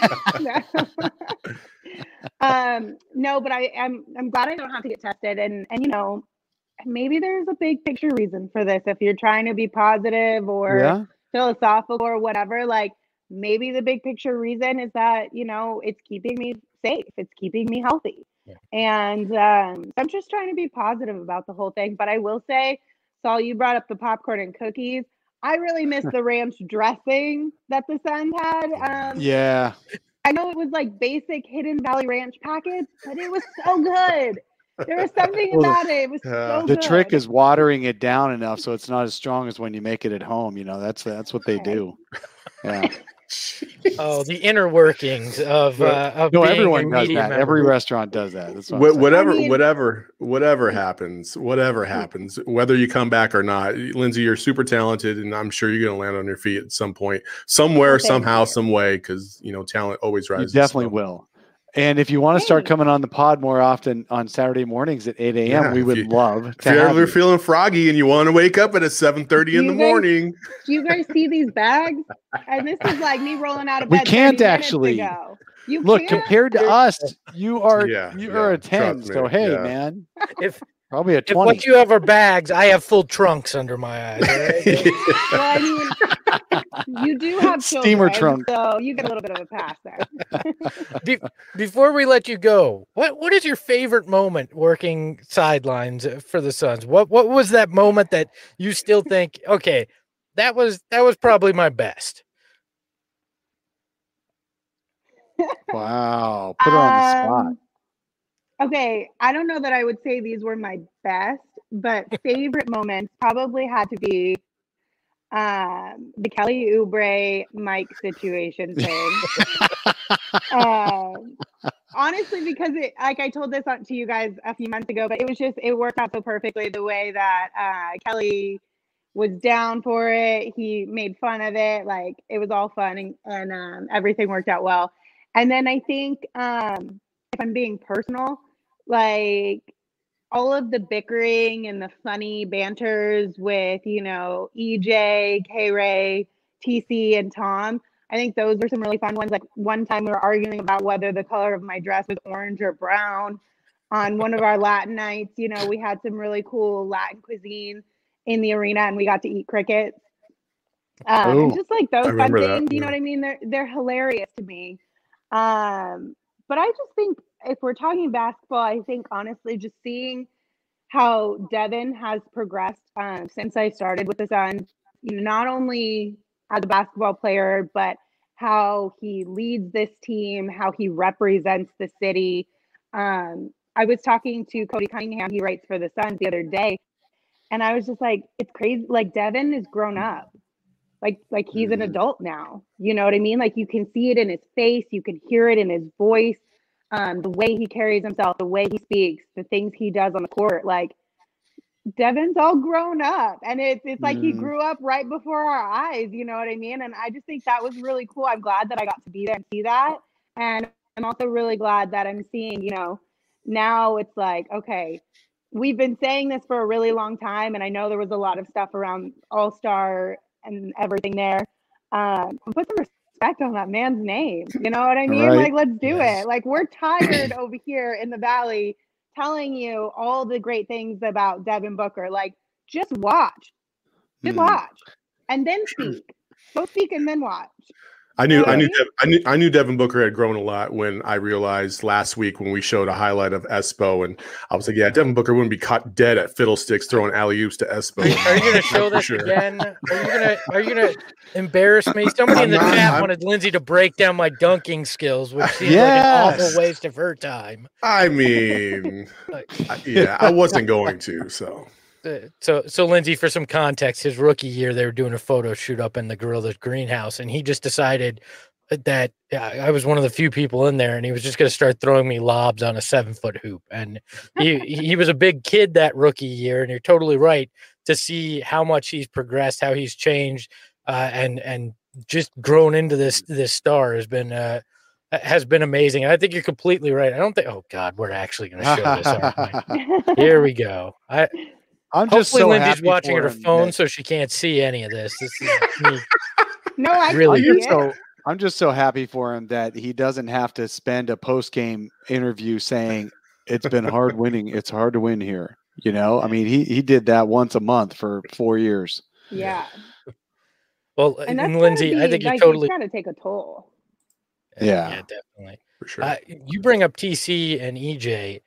No, but I'm glad I don't have to get tested, and you know, maybe there's a big picture reason for this. If you're trying to be positive or philosophical or whatever, like maybe the big picture reason is that, you know, it's keeping me safe, it's keeping me healthy. And I'm just trying to be positive about the whole thing. But I will say, Saul, you brought up the popcorn and cookies. I really miss the ranch dressing that the Suns had. I know it was like basic Hidden Valley Ranch package, but it was so good. There was something about it. It was so the good. trick is watering it down enough so it's not as strong as when you make it at home. You know, that's what they do. Yeah. Oh, the inner workings of no, being everyone a does media that. member. Every restaurant does that. That's what whatever happens, whether you come back or not, Lindsay, you're super talented, and I'm sure you're going to land on your feet at some point, somewhere, somehow, some way, because you know talent always rises. You definitely will. And if you want to start coming on the pod more often on Saturday mornings at 8 a.m., we would love to If you're have ever you. feeling froggy and you want to wake up at 7:30 in the morning, do you guys see these bags? And this is like me rolling out of We bed. can't 30 minutes actually. ago. You Look, can't? compared to us, you are a 10. trust me, So hey, yeah. man, If probably a if 20. what you have are bags, I have full trunks under my eyes. Right? Well, I mean, you do have Steamer children, trunk. so you get a little bit of a pass there. Before we let you go, what is your favorite moment working sidelines for the Suns? What was that moment that you still think, okay, that was probably my best? Wow. Put her on the spot. Okay, I don't know that I would say these were my best, but favorite moments probably had to be the Kelly Oubre Mike situation thing. Honestly, because like I told this to you guys a few months ago, but it worked out so perfectly the way that Kelly was down for it. He made fun of it. Like, it was all fun, and everything worked out well. And then I think, if I'm being personal, like, all of the bickering and the funny banters with, EJ, K-Ray, TC, and Tom, I think those were some really fun ones. Like, one time we were arguing about whether the color of my dress was orange or brown on one of our Latin nights. We had some really cool Latin cuisine in the arena, and we got to eat crickets. And just like those fun things, you know what I mean? They're hilarious to me. But I just think, if we're talking basketball, I think honestly just seeing how Devin has progressed since I started with the Suns, not only as a basketball player, but how he leads this team, how he represents the city. I was talking to Cody Cunningham, he writes for the Suns, the other day, and I was just like, it's crazy. Like, Devin is grown up. Like he's an adult now. You know what I mean? Like, you can see it in his face. You can hear it in his voice. The way he carries himself, the way he speaks, the things he does on the court. Like, Devin's all grown up, and it's like he grew up right before our eyes. You know what I mean? And I just think that was really cool. I'm glad that I got to be there and see that. And I'm also really glad that I'm seeing, now it's like, okay, we've been saying this for a really long time. And I know there was a lot of stuff around All-Star and everything there. Put some respect on that man's name. You know what I mean? Right. Like, let's do it. Like, we're tired over here in the Valley telling you all the great things about Devin Booker. Like, just watch. Just watch. And then speak. Go speak and then watch. I knew Devin Booker had grown a lot when I realized last week when we showed a highlight of Espo, and I was like, yeah, Devin Booker wouldn't be caught dead at Fiddlesticks throwing alley-oops to Espo. Are you going to show this again? Are you going to embarrass me? Somebody in the chat wanted Lindsay to break down my dunking skills, which seems like an awful waste of her time. I mean, I wasn't going to, so. So Lindsay, for some context, his rookie year, they were doing a photo shoot up in the Gorillas greenhouse, and he just decided that I was one of the few people in there, and he was just going to start throwing me lobs on a 7-foot hoop. And he was a big kid that rookie year, and you're totally right to see how much he's progressed, how he's changed, and just grown into this star has been amazing. I think you're completely right. I don't think. Oh God, we're actually going to show this. Aren't we? Here we go. Hopefully Lindsay's watching her phone, so she can't see any of this. This is me. No, I really do. I'm just so happy for him that he doesn't have to spend a post-game interview saying it's been hard winning. It's hard to win here. I mean, he did that once a month for 4 years. Yeah. Well, and Lindsay, I think you totally got to take a toll. Yeah, definitely. For sure. You bring up TC and EJ.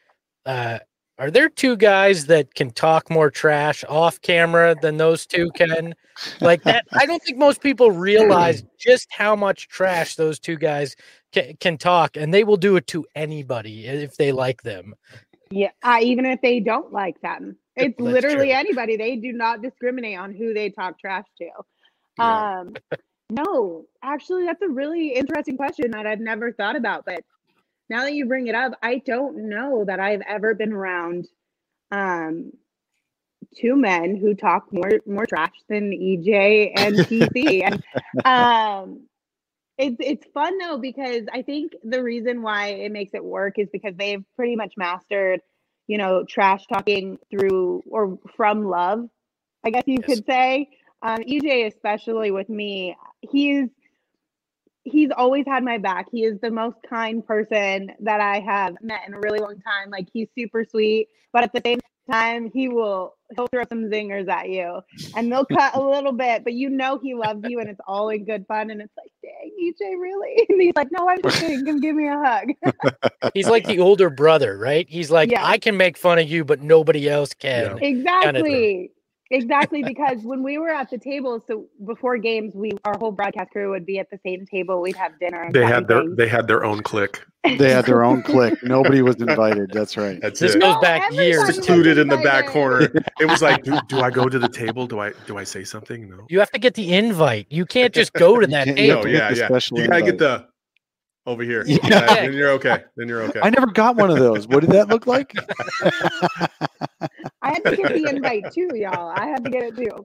Are there two guys that can talk more trash off camera than those two can? Like that, I don't think most people realize just how much trash those two guys can talk, and they will do it to anybody if they like them. Yeah, even if they don't like them. It's literally anybody. They do not discriminate on who they talk trash to. Yeah. No, actually, that's a really interesting question that I've never thought about, but now that you bring it up, I don't know that I've ever been around two men who talk more trash than EJ and TC. And it's fun though, because I think the reason why it makes it work is because they've pretty much mastered, trash talking through or from love, I guess you could say. EJ, especially with me, he's always had my back. He is the most kind person that I have met in a really long time. Like, he's super sweet, but at the same time, he'll throw some zingers at you, and they'll cut a little bit, but he loves you, and it's all in good fun. And it's like, dang, EJ, really? And he's like, no, I'm just kidding. Come give me a hug. He's like the older brother, right? He's like, I can make fun of you, but nobody else can. Exactly. Exactly, because when we were at the table, so before games, our whole broadcast crew would be at the same table. We'd have dinner. And They fun had their things. they had their own clique. They had their own clique. Nobody was invited. That's right. That's This it. goes No, back everybody years. was Secluded in the back invited. corner. It was like, do I go to the table? Do I say something? No. You have to get the invite. You can't just go to that can't- you have table. to No, get yeah, the yeah. special You gotta get invite. the over here. Yeah. Yeah, then you're okay. Then you're okay. I never got one of those. What did that look like? I had to get the invite too, y'all. I had to get it too.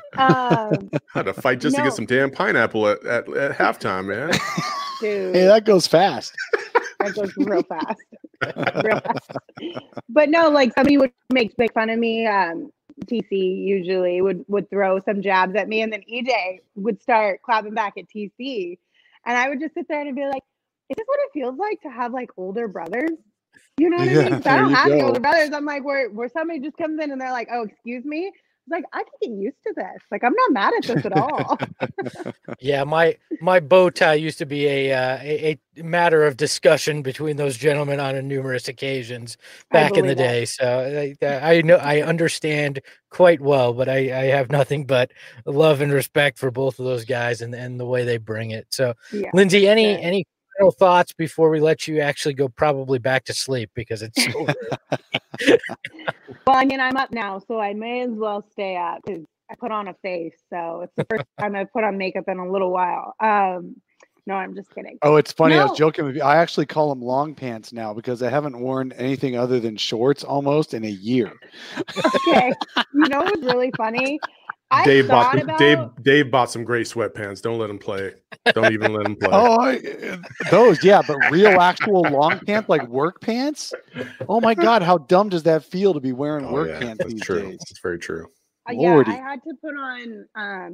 Had to fight just to No. get some damn pineapple at halftime, man. Dude, Hey, that goes fast. that goes real fast. Real fast. But no, like somebody would make fun of me. TC usually would throw some jabs at me, and then EJ would start clapping back at TC, and I would just sit there and be like, "Is this what it feels like to have like older brothers?" You know what I Yeah, mean? 'Cause I there don't you have any go. older brothers. I'm like, where somebody just comes in and they're like, "Oh, excuse me." It's like I can get used to this. Like I'm not mad at this at all. Yeah, my bow tie used to be a matter of discussion between those gentlemen on numerous occasions I back in the believe that. day. So I know I understand quite well, but I have nothing but love and respect for both of those guys and the way they bring it. So Yeah. Lindsay, sure. any final thoughts before we let you actually go probably back to sleep because it's so early? Well, I mean, I'm up now, so I may as well stay up because I put on a face. So it's the first time I've put on makeup in a little while. No, I'm just kidding. Oh, it's funny. I was No. joking with you. I actually call them long pants now because I haven't worn anything other than shorts almost in a year. Okay. You know what's really funny? I Dave thought bought about Dave bought some gray sweatpants. Don't let him play. Don't even let him play. Oh, those, yeah, but real actual long pants, like work pants. Oh my God, how dumb does that feel to be wearing Oh, work yeah, pants that's these true. days? That's very true. yeah, Lordy. I had to put on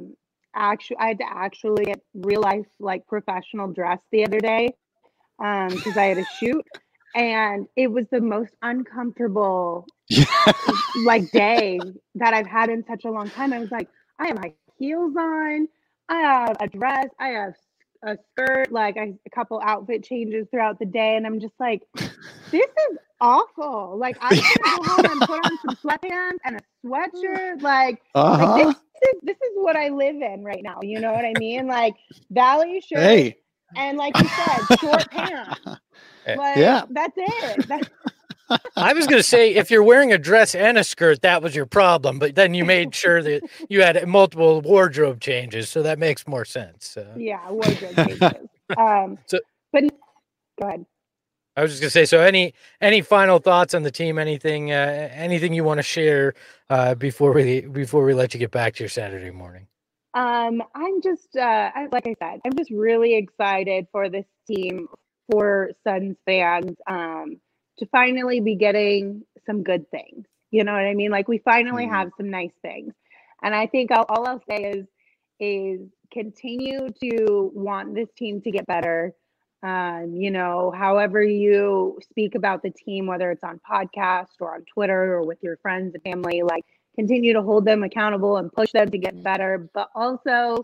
I had to actually get real life like professional dress the other day because I had a shoot and it was the most uncomfortable Yeah. like day that I've had in such a long time. I was like, I have my heels on, I have a dress, I have a skirt, like a couple outfit changes throughout the day, and I'm just like, this is awful. Like I'm gonna go home and put on some sweatpants and a sweatshirt. Like Uh-huh. this is what I live in right now. You know what I mean? Like Valley shirt Hey. and like you said, short pants. Like Yeah. that's it. That's I was going to say, if you're wearing a dress and a skirt, that was your problem. But then you made sure that you had multiple wardrobe changes, so that makes more sense. yeah, wardrobe changes. So- But go ahead. I was just going to say, so any final thoughts on the team? Anything you want to share before we let you get back to your Saturday morning? I'm just like I said, I'm just really excited for this team, for Suns fans, to finally be getting some good things. You know what I mean? Like we finally Mhm. have some nice things. And I think all I'll say is continue to want this team to get better. You know, however you speak about the team, whether it's on podcast or on Twitter or with your friends and family, like continue to hold them accountable and push them to get better, but also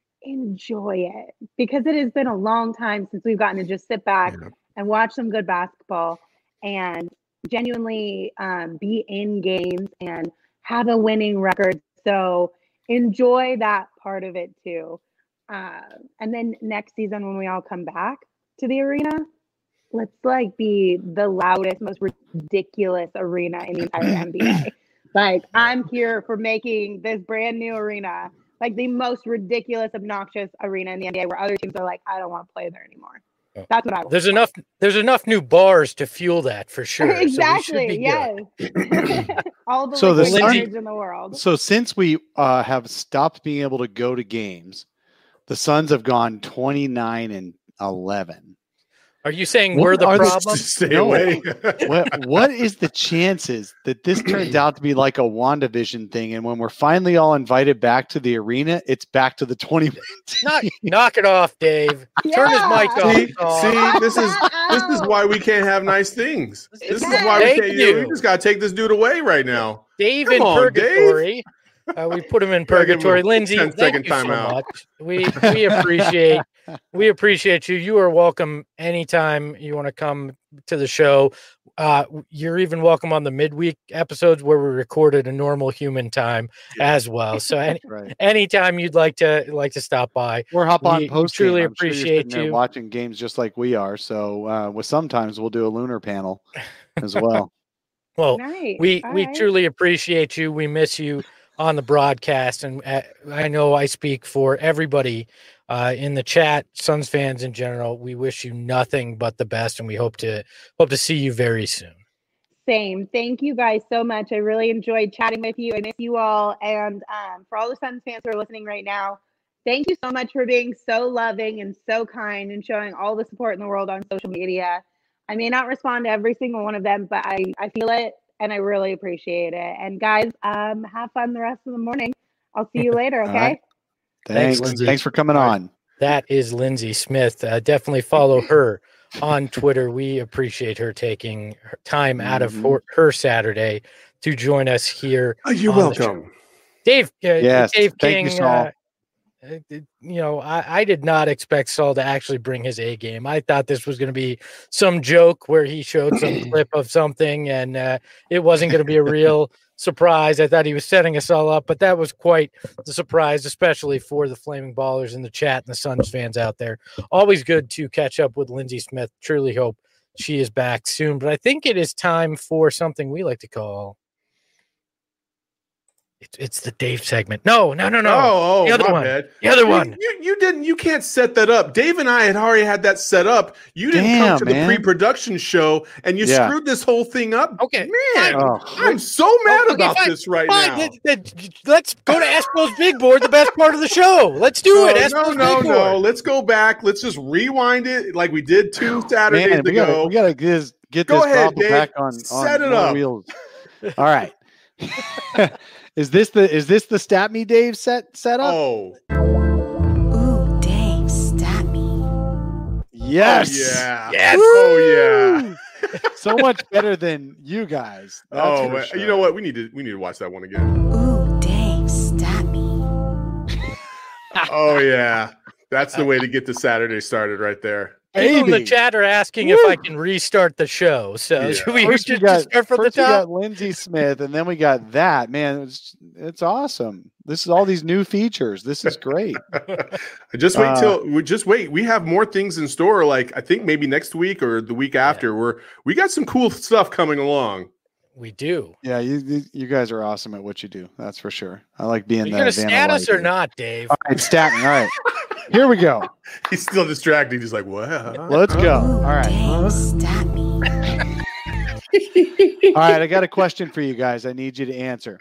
enjoy it because it has been a long time since we've gotten to just sit back Yeah. and watch some good basketball and genuinely be in games and have a winning record. So enjoy that part of it too. And then next season when we all come back to the arena, let's like be the loudest, most ridiculous arena in the entire NBA. Like I'm here for making this brand new arena like the most ridiculous, obnoxious arena in the NBA where other teams are like, I don't want to play there anymore. Oh. That's what I want. There's enough new bars to fuel that for sure. So we should Exactly. be good. Yes. All the So the liquid Suns- courage in the world. So since we have stopped being able to go to games, the Suns have gone 29-11. Are you saying What we're the are the- problem? Stay No. away. What is the chances that this turns out to be like a WandaVision thing, and when we're finally all invited back to the arena, it's back to the 20? Knock it off, Dave. Turn his mic off. See, Dog. this is why we can't have nice things. This is why we Thank can't. you. We just gotta take this dude away right now. Dave Come in on, purgatory. We put him in Gotta give him a purgatory. Lindsay, 10-second thank you so timeout. much. We appreciate you. You are welcome anytime you want to come to the show. You're even welcome on the midweek episodes where we recorded a normal human time as well. So Right. anytime you'd like to stop by, Or hop on we post. truly I'm sure you're appreciate sitting there you. watching games just like we are. So with sometimes we'll do a lunar panel as well. Well, Nice. we All right. truly appreciate you. We miss you on the broadcast, and I know I speak for everybody in the chat, Suns fans in general. We wish you nothing but the best, and we hope to see you very soon. Same. Thank you guys so much. I really enjoyed chatting with you. I miss you all. And for all the Suns fans who are listening right now, thank you so much for being so loving and so kind and showing all the support in the world on social media. I may not respond to every single one of them, but I feel it and I really appreciate it. And guys, have fun the rest of the morning. I'll see you later. All Okay. right. Thanks, Thanks. Lindsay. Thanks for coming on. That is Lindsay Smith. Definitely follow her on Twitter. We appreciate her taking her time out of her Saturday to join us here. You're on the show. welcome. Dave. Yes. Dave Thank King. you, Saul. I did not expect Saul to actually bring his A game. I thought this was going to be some joke where he showed some clip of something and it wasn't going to be a real surprise. I thought he was setting us all up, but that was quite the surprise, especially for the Flaming Ballers in the chat and the Suns fans out there. Always good to catch up with Lindsay Smith. Truly hope she is back soon, but I think it is time for something we like to call it's the Dave segment. No. Oh, the other my one. bad. The other one. You can't set that up. Dave and I had already had that set up. You didn't come to the pre-production show and you screwed this whole thing up. Okay. Man, I'm so mad about this right now. Let's go to Espo's Big Board, the best part of the show. Let's do it. Espo's Big Board. Let's go back. Let's just rewind it like we did 2 Saturdays ago. We gotta get Go this ahead, Dave, back on set it up. Wheels. All right. Is this the Stat Me Dave set up? Oh. Ooh, Dave, stat me. Yes. Oh, yeah. Yes. Oh yeah. So much better than you guys. That's for sure. You know what? We need to watch that one again. Ooh, Dave, stat me. Oh yeah. That's the way to get the Saturday started right there. People in the Baby. chat are asking if I can restart the show. So should we First just start from the first we top? got Lindsay Smith, and then we got that. Man, it's awesome. This is all these new features. This is great. Just wait. We have more things in store. Like I think maybe next week or the week after. We got some cool stuff coming along. We do. Yeah, you guys are awesome at what you do. That's for sure. I like being Are you the going to stat us or Vanilla not, Dave? All right, stat me. All right. Here we go. He's still distracted. He's like, what? Let's go. Ooh, All right. Dave, stat me. All right. I got a question for you guys. I need you to answer.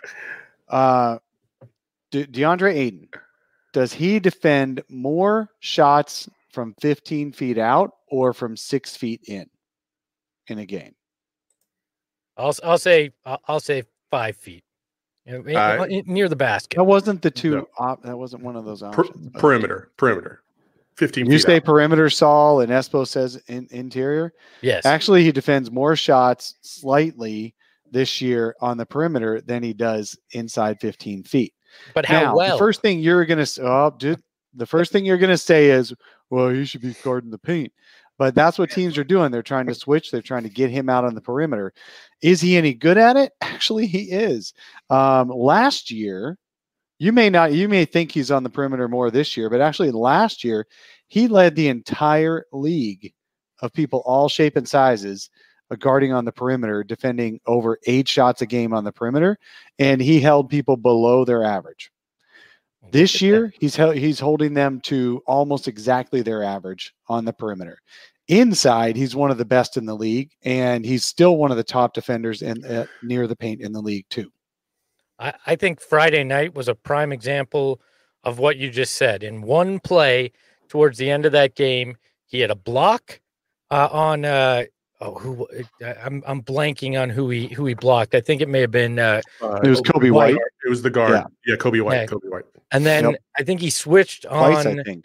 DeAndre Ayton, does he defend more shots from 15 feet out or from 6 feet in a game? I'll say 5 feet. Near the basket. That wasn't the two. No. That wasn't one of those options. but- Perimeter. 15 You feet say out. perimeter, Saul, and Espo says interior. Yes. Actually, he defends more shots slightly this year on the perimeter than he does inside 15 feet. But how Now, well? the first thing you're going to say is, well, he should be guarding the paint. But that's what teams are doing. They're trying to switch. They're trying to get him out on the perimeter. Is he any good at it? Actually, he is. Last year, you may think he's on the perimeter more this year, but actually last year, he led the entire league of people all shape and sizes guarding on the perimeter, defending over 8 shots a game on the perimeter, and he held people below their average. This year, he's holding them to almost exactly their average on the perimeter. Inside, he's one of the best in the league, and he's still one of the top defenders near the paint in the league too. I think Friday night was a prime example of what you just said. In one play towards the end of that game, he had a block on I'm blanking on who he blocked. I think it may have been It was Kobe White. It was the guard. Yeah, Kobe White. Yeah. Kobe White. And then I think he switched Twice, on. I think.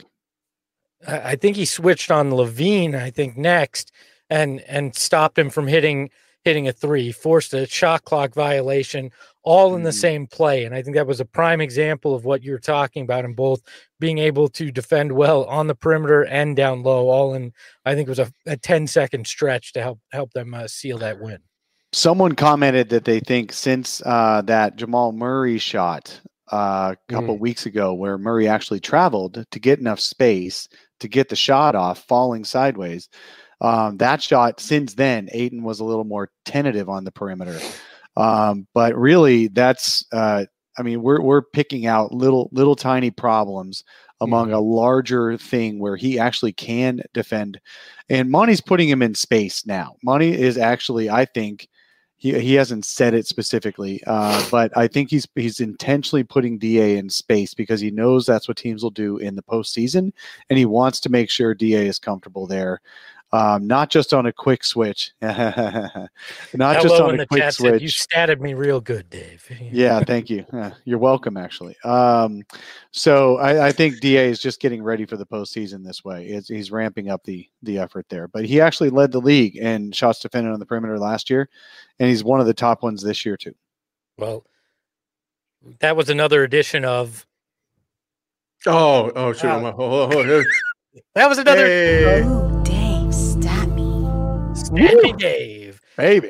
I think he switched on Levine. I think next, and stopped him from hitting hitting a three, forced a shot clock violation, all in the Mhm. same play. And I think that was a prime example of what you're talking about in both being able to defend well on the perimeter and down low, all in, I think it was a 10-second stretch to help them seal that win. Someone commented that they think since that Jamal Murray shot a couple weeks ago, where Murray actually traveled to get enough space to get the shot off, falling sideways, that shot since then, Ayton was a little more tentative on the perimeter. But really, that's we're picking out little tiny problems among a larger thing where he actually can defend. And Monty's putting him in space now. Monty is actually, I think, he hasn't said it specifically, but I think he's intentionally putting DA in space because he knows that's what teams will do in the postseason, and he wants to make sure DA is comfortable there. Not just on a quick switch. Not just on a quick switch. You statted me real good, Dave. Yeah, thank you. You're welcome, actually. So I think DA is just getting ready for the postseason this way. He's ramping up the effort there. But he actually led the league in shots defended on the perimeter last year, and he's one of the top ones this year too. Well, that was another edition of. Oh, sure. That was another. Hey. Ooh, Dave, stat me. Snappy Dave. Baby.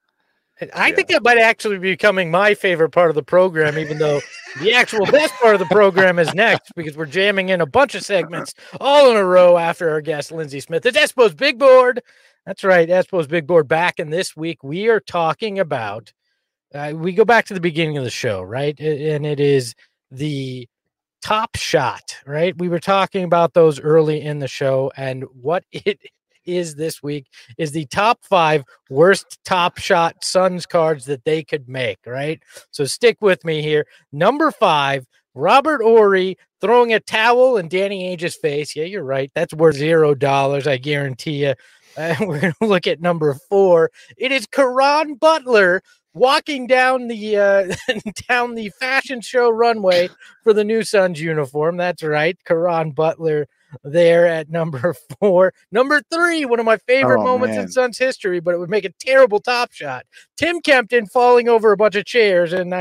I think that might actually be becoming my favorite part of the program, even though the actual best part of the program is next, because we're jamming in a bunch of segments all in a row after our guest, Lindsey Smith. It's Espo's Big Board. That's right, Espo's Big Board back. And this week we are talking about, we go back to the beginning of the show, right? And it is the Top Shot, right? We were talking about those early in the show, and what it is this week is the top 5 worst Top Shot Suns cards that they could make, right? So stick with me here. Number 5, Robert Horry throwing a towel in Danny Ainge's face. Yeah, you're right. That's worth $0, I guarantee you. We're going to look at number 4. It is Caron Butler walking down the down the fashion show runway for the new Suns uniform. That's right, Caron Butler there at number 4. Number 3, one of my favorite moments in Suns history, but it would make a terrible Top Shot. Tim Kempton falling over a bunch of chairs in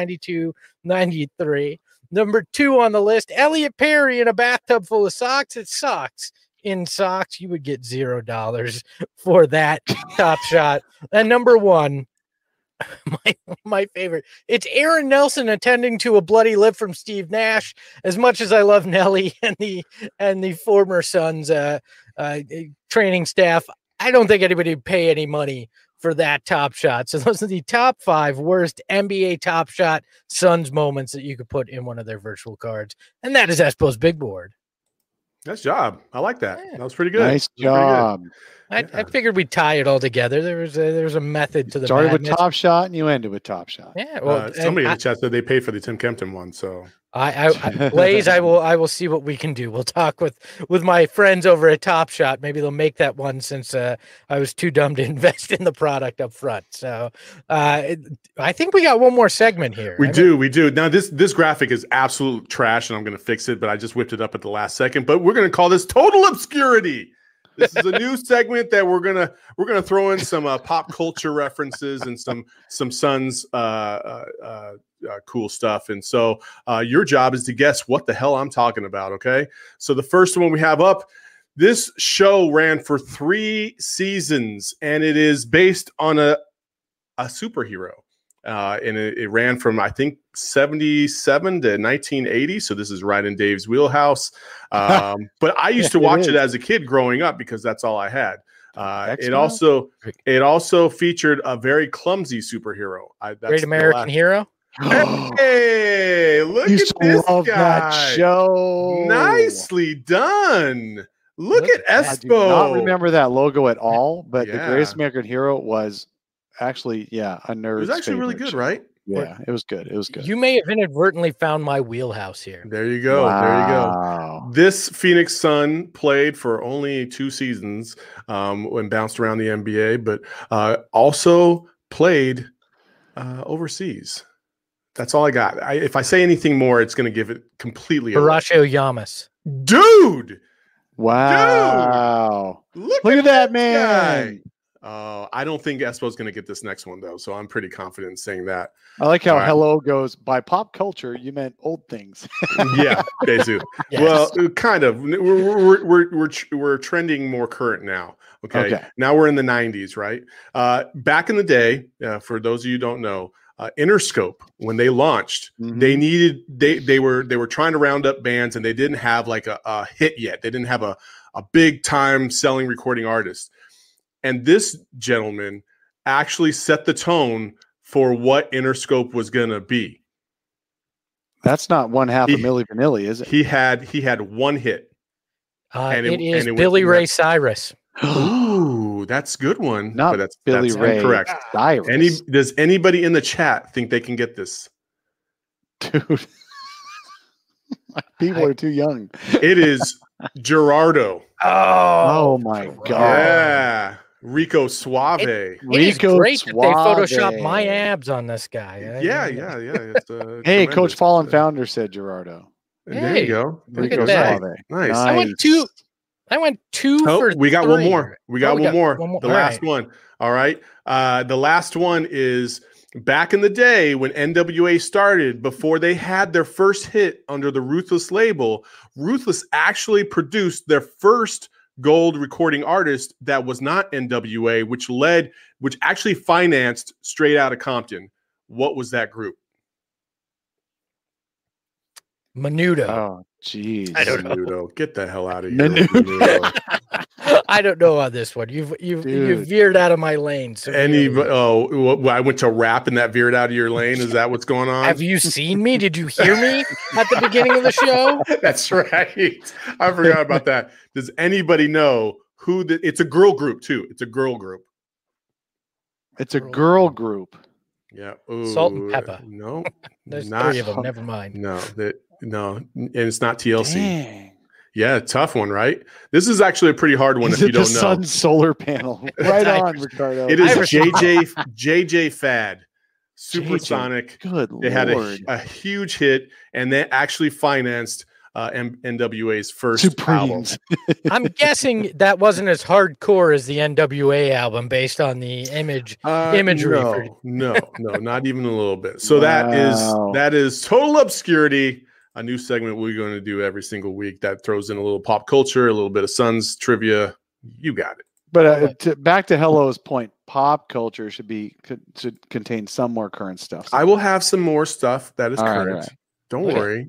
92-93. Number 2 on the list, Elliot Perry in a bathtub full of socks. It sucks. In socks, you would get $0 for that Top Shot. And number 1, my favorite, it's Aaron Nelson attending to a bloody lip from Steve Nash. As much as I love Nelly and the former Suns training staff, I don't think anybody would pay any money for that Top Shot. So those are the top 5 worst NBA Top Shot Suns moments that you could put in one of their virtual cards. And that is Espo's Big Board. Nice job. I like that. Yeah. That was pretty good. Nice job. I figured we'd tie it all together. There was a method to the started madness. with Top Shot and you ended with Top Shot. Yeah. Well, somebody in the chat said they paid for the Tim Kempton one. So Blaze, I will see what we can do. We'll talk with my friends over at Top Shot. Maybe they'll make that one since I was too dumb to invest in the product up front. So I think we got one more segment here. We do. Now this graphic is absolute trash, and I'm going to fix it. But I just whipped it up at the last second. But we're going to call this Total Obscurity. This is a new segment that we're gonna throw in some pop culture references and some Suns cool stuff. And so your job is to guess what the hell I'm talking about. Okay. So the first one we have up, this show ran for 3 seasons, and it is based on a superhero. And it ran from, I think, 77 to 1980. So this is right in Dave's wheelhouse. But I used to watch it as a kid growing up because that's all I had. It also featured a very clumsy superhero. Great American Hero. Hey, look at this guy. That show. Nicely done. Look at Espo. I do not remember that logo at all, but the Greatest American Hero was actually, a nerd. It was actually really good, right? Yeah, it was good. It was good. You may have inadvertently found my wheelhouse here. There you go. Wow. There you go. This Phoenix Sun played for only 2 seasons and bounced around the NBA, but also played overseas. That's all I got. If I say anything more, it's going to give it completely away. Horacio Llamas. Dude! Wow. Dude! Look at that man. Guy. I don't think Espo's going to get this next one though, so I'm pretty confident in saying that. I like how All right. hello goes by pop culture. You meant old things. Yeah, basically. Yes. Well, kind of. We're trending more current now. Okay. Now we're in the 90s, right? Back in the day, for those of you who don't know, Interscope, when they launched, they were trying to round up bands, and they didn't have like a hit yet. They didn't have a big time selling recording artist. And this gentleman actually set the tone for what Interscope was going to be. That's not one half of Milli Vanilli, is it? He had one hit. It is Billy Ray Cyrus. Ooh, that's a good one. Not but that's Billy Ray incorrect. Cyrus. Does anybody in the chat think they can get this? Dude. People are too young. It is Gerardo. Oh my God. Yeah. Rico Suave. It is great that they Photoshop my abs on this guy. Yeah. It's, hey, Coach Fallen Founder said Gerardo. There you go. Look at that. Nice. I went two for we got 3. one more. We got one more. The All last right. one. All right. The last one is back in the day when NWA started, before they had their first hit under the Ruthless label. Ruthless actually produced their first gold recording artist that was not NWA, which actually financed Straight Outta Compton. What was that group? Menudo. Oh, jeez. I don't know. Menudo. Get the hell out of here. Menudo. I don't know on this one. You've veered out of my lane. I went to rap and that veered out of your lane. Is that what's going on? Have you seen me? Did you hear me at the beginning of the show? That's right. I forgot about that. Does anybody know who it's a girl group too? It's a girl group. It's a girl group. Yeah. Ooh, Salt and Pepper. No. There's 3 of them. Never mind. No. And it's not TLC. Dang. Yeah, tough one, right? This is actually a pretty hard one if you don't know. Sun solar panel. Right on, Ricardo. It is JJ Fad. Supersonic. Good They had Lord. a huge hit, and they actually financed NWA's first album. Supremes. I'm guessing that wasn't as hardcore as the NWA album based on the imagery. No, not even a little bit. So that is Total Obscurity, a new segment we're going to do every single week that throws in a little pop culture, a little bit of Suns trivia. You got it. But back to Hello's point, pop culture should contain some more current stuff. I will have some more stuff that is All right, current. all right. Don't Okay. worry.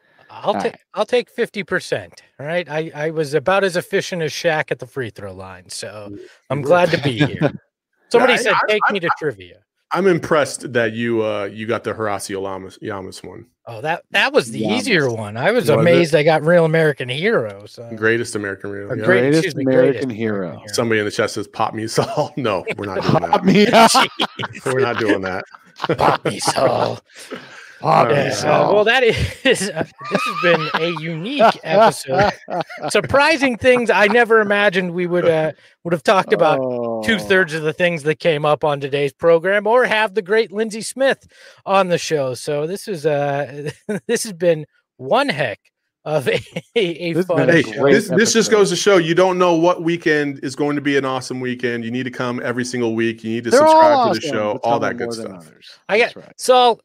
I'll take 50%. All right. I was about as efficient as Shaq at the free throw line, so I'm glad to be here. Somebody said take me to trivia. I'm impressed that you got the Horacio Llamas one. Oh, that was the Llamas. easier one. I was Was amazed I got Real American Hero. So Greatest American Real. Or Yeah. Greatest American hero. Somebody in the chat says pop me Saul. No, we're not doing Pop that. me up. We're not doing that. Pop me Saul. Pop me Yeah, Saul. well, that is this has been a unique episode. Surprising things I never imagined we would have talked about. 2/3 of the things that came up on today's program, or have the great Lindsey Smith on the show. So this is this has been one heck of a fun Hey, show. this just goes to show you don't know what weekend is going to be an awesome weekend. You need to come every single week. You need to They're all subscribe to the awesome, show, but all some that are good more than stuff. others. I got That's right. Saul,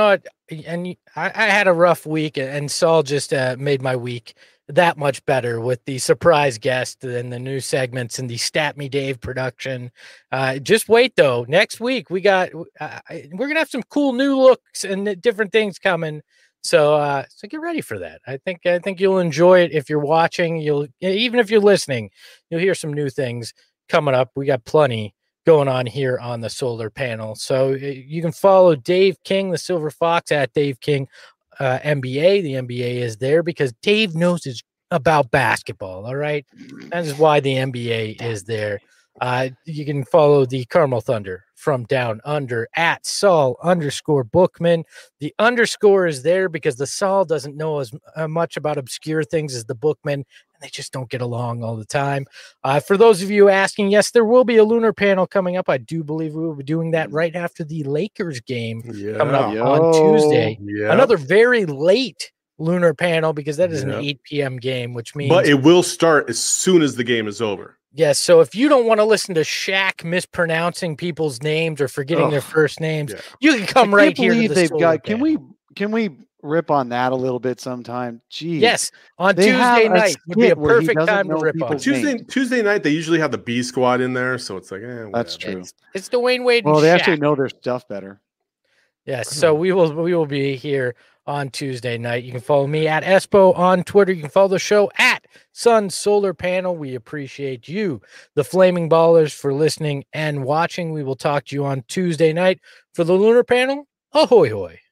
and I had a rough week, and Saul just made my week that much better with the surprise guest and the new segments and the Stat Me Dave production. Just wait though. Next week we're gonna have some cool new looks and different things coming. So get ready for that. I think you'll enjoy it if you're watching. Even if you're listening, you'll hear some new things coming up. We got plenty going on here on the solar panel. So you can follow Dave King, the Silver Fox, at Dave King NBA. The NBA is there because Dave knows about basketball. All right. That is why the NBA is there. You can follow the Carmel Thunder from Down Under at Saul_Bookman. The underscore is there because the Saul doesn't know as much about obscure things as the Bookman, and they just don't get along all the time. For those of you asking, yes, there will be a lunar panel coming up. I do believe we will be doing that right after the Lakers game coming up on Tuesday. Yeah. Another very late lunar panel because that is an 8 p.m. game, which means But it will start as soon as the game is over. Yes. So if you don't want to listen to Shaq mispronouncing people's names or forgetting their first names, Yeah. you can come right here to the they've solar got. panel. Can we rip on that a little bit sometime? Jeez. Yes, on They have Tuesday a night would be a skit where he perfect doesn't time to know rip on. people's it. Tuesday night they usually have the B squad in there, so it's like That's whatever. true. It's Dwayne Wade. Well, and they Shaq. actually know their stuff better. Yes, so we will be here on Tuesday night. You can follow me at Espo on Twitter. You can follow the show at Sun Solar Panel. We appreciate you, the Flaming Ballers, for listening and watching. We will talk to you on Tuesday night for the Lunar Panel. Ahoy hoy.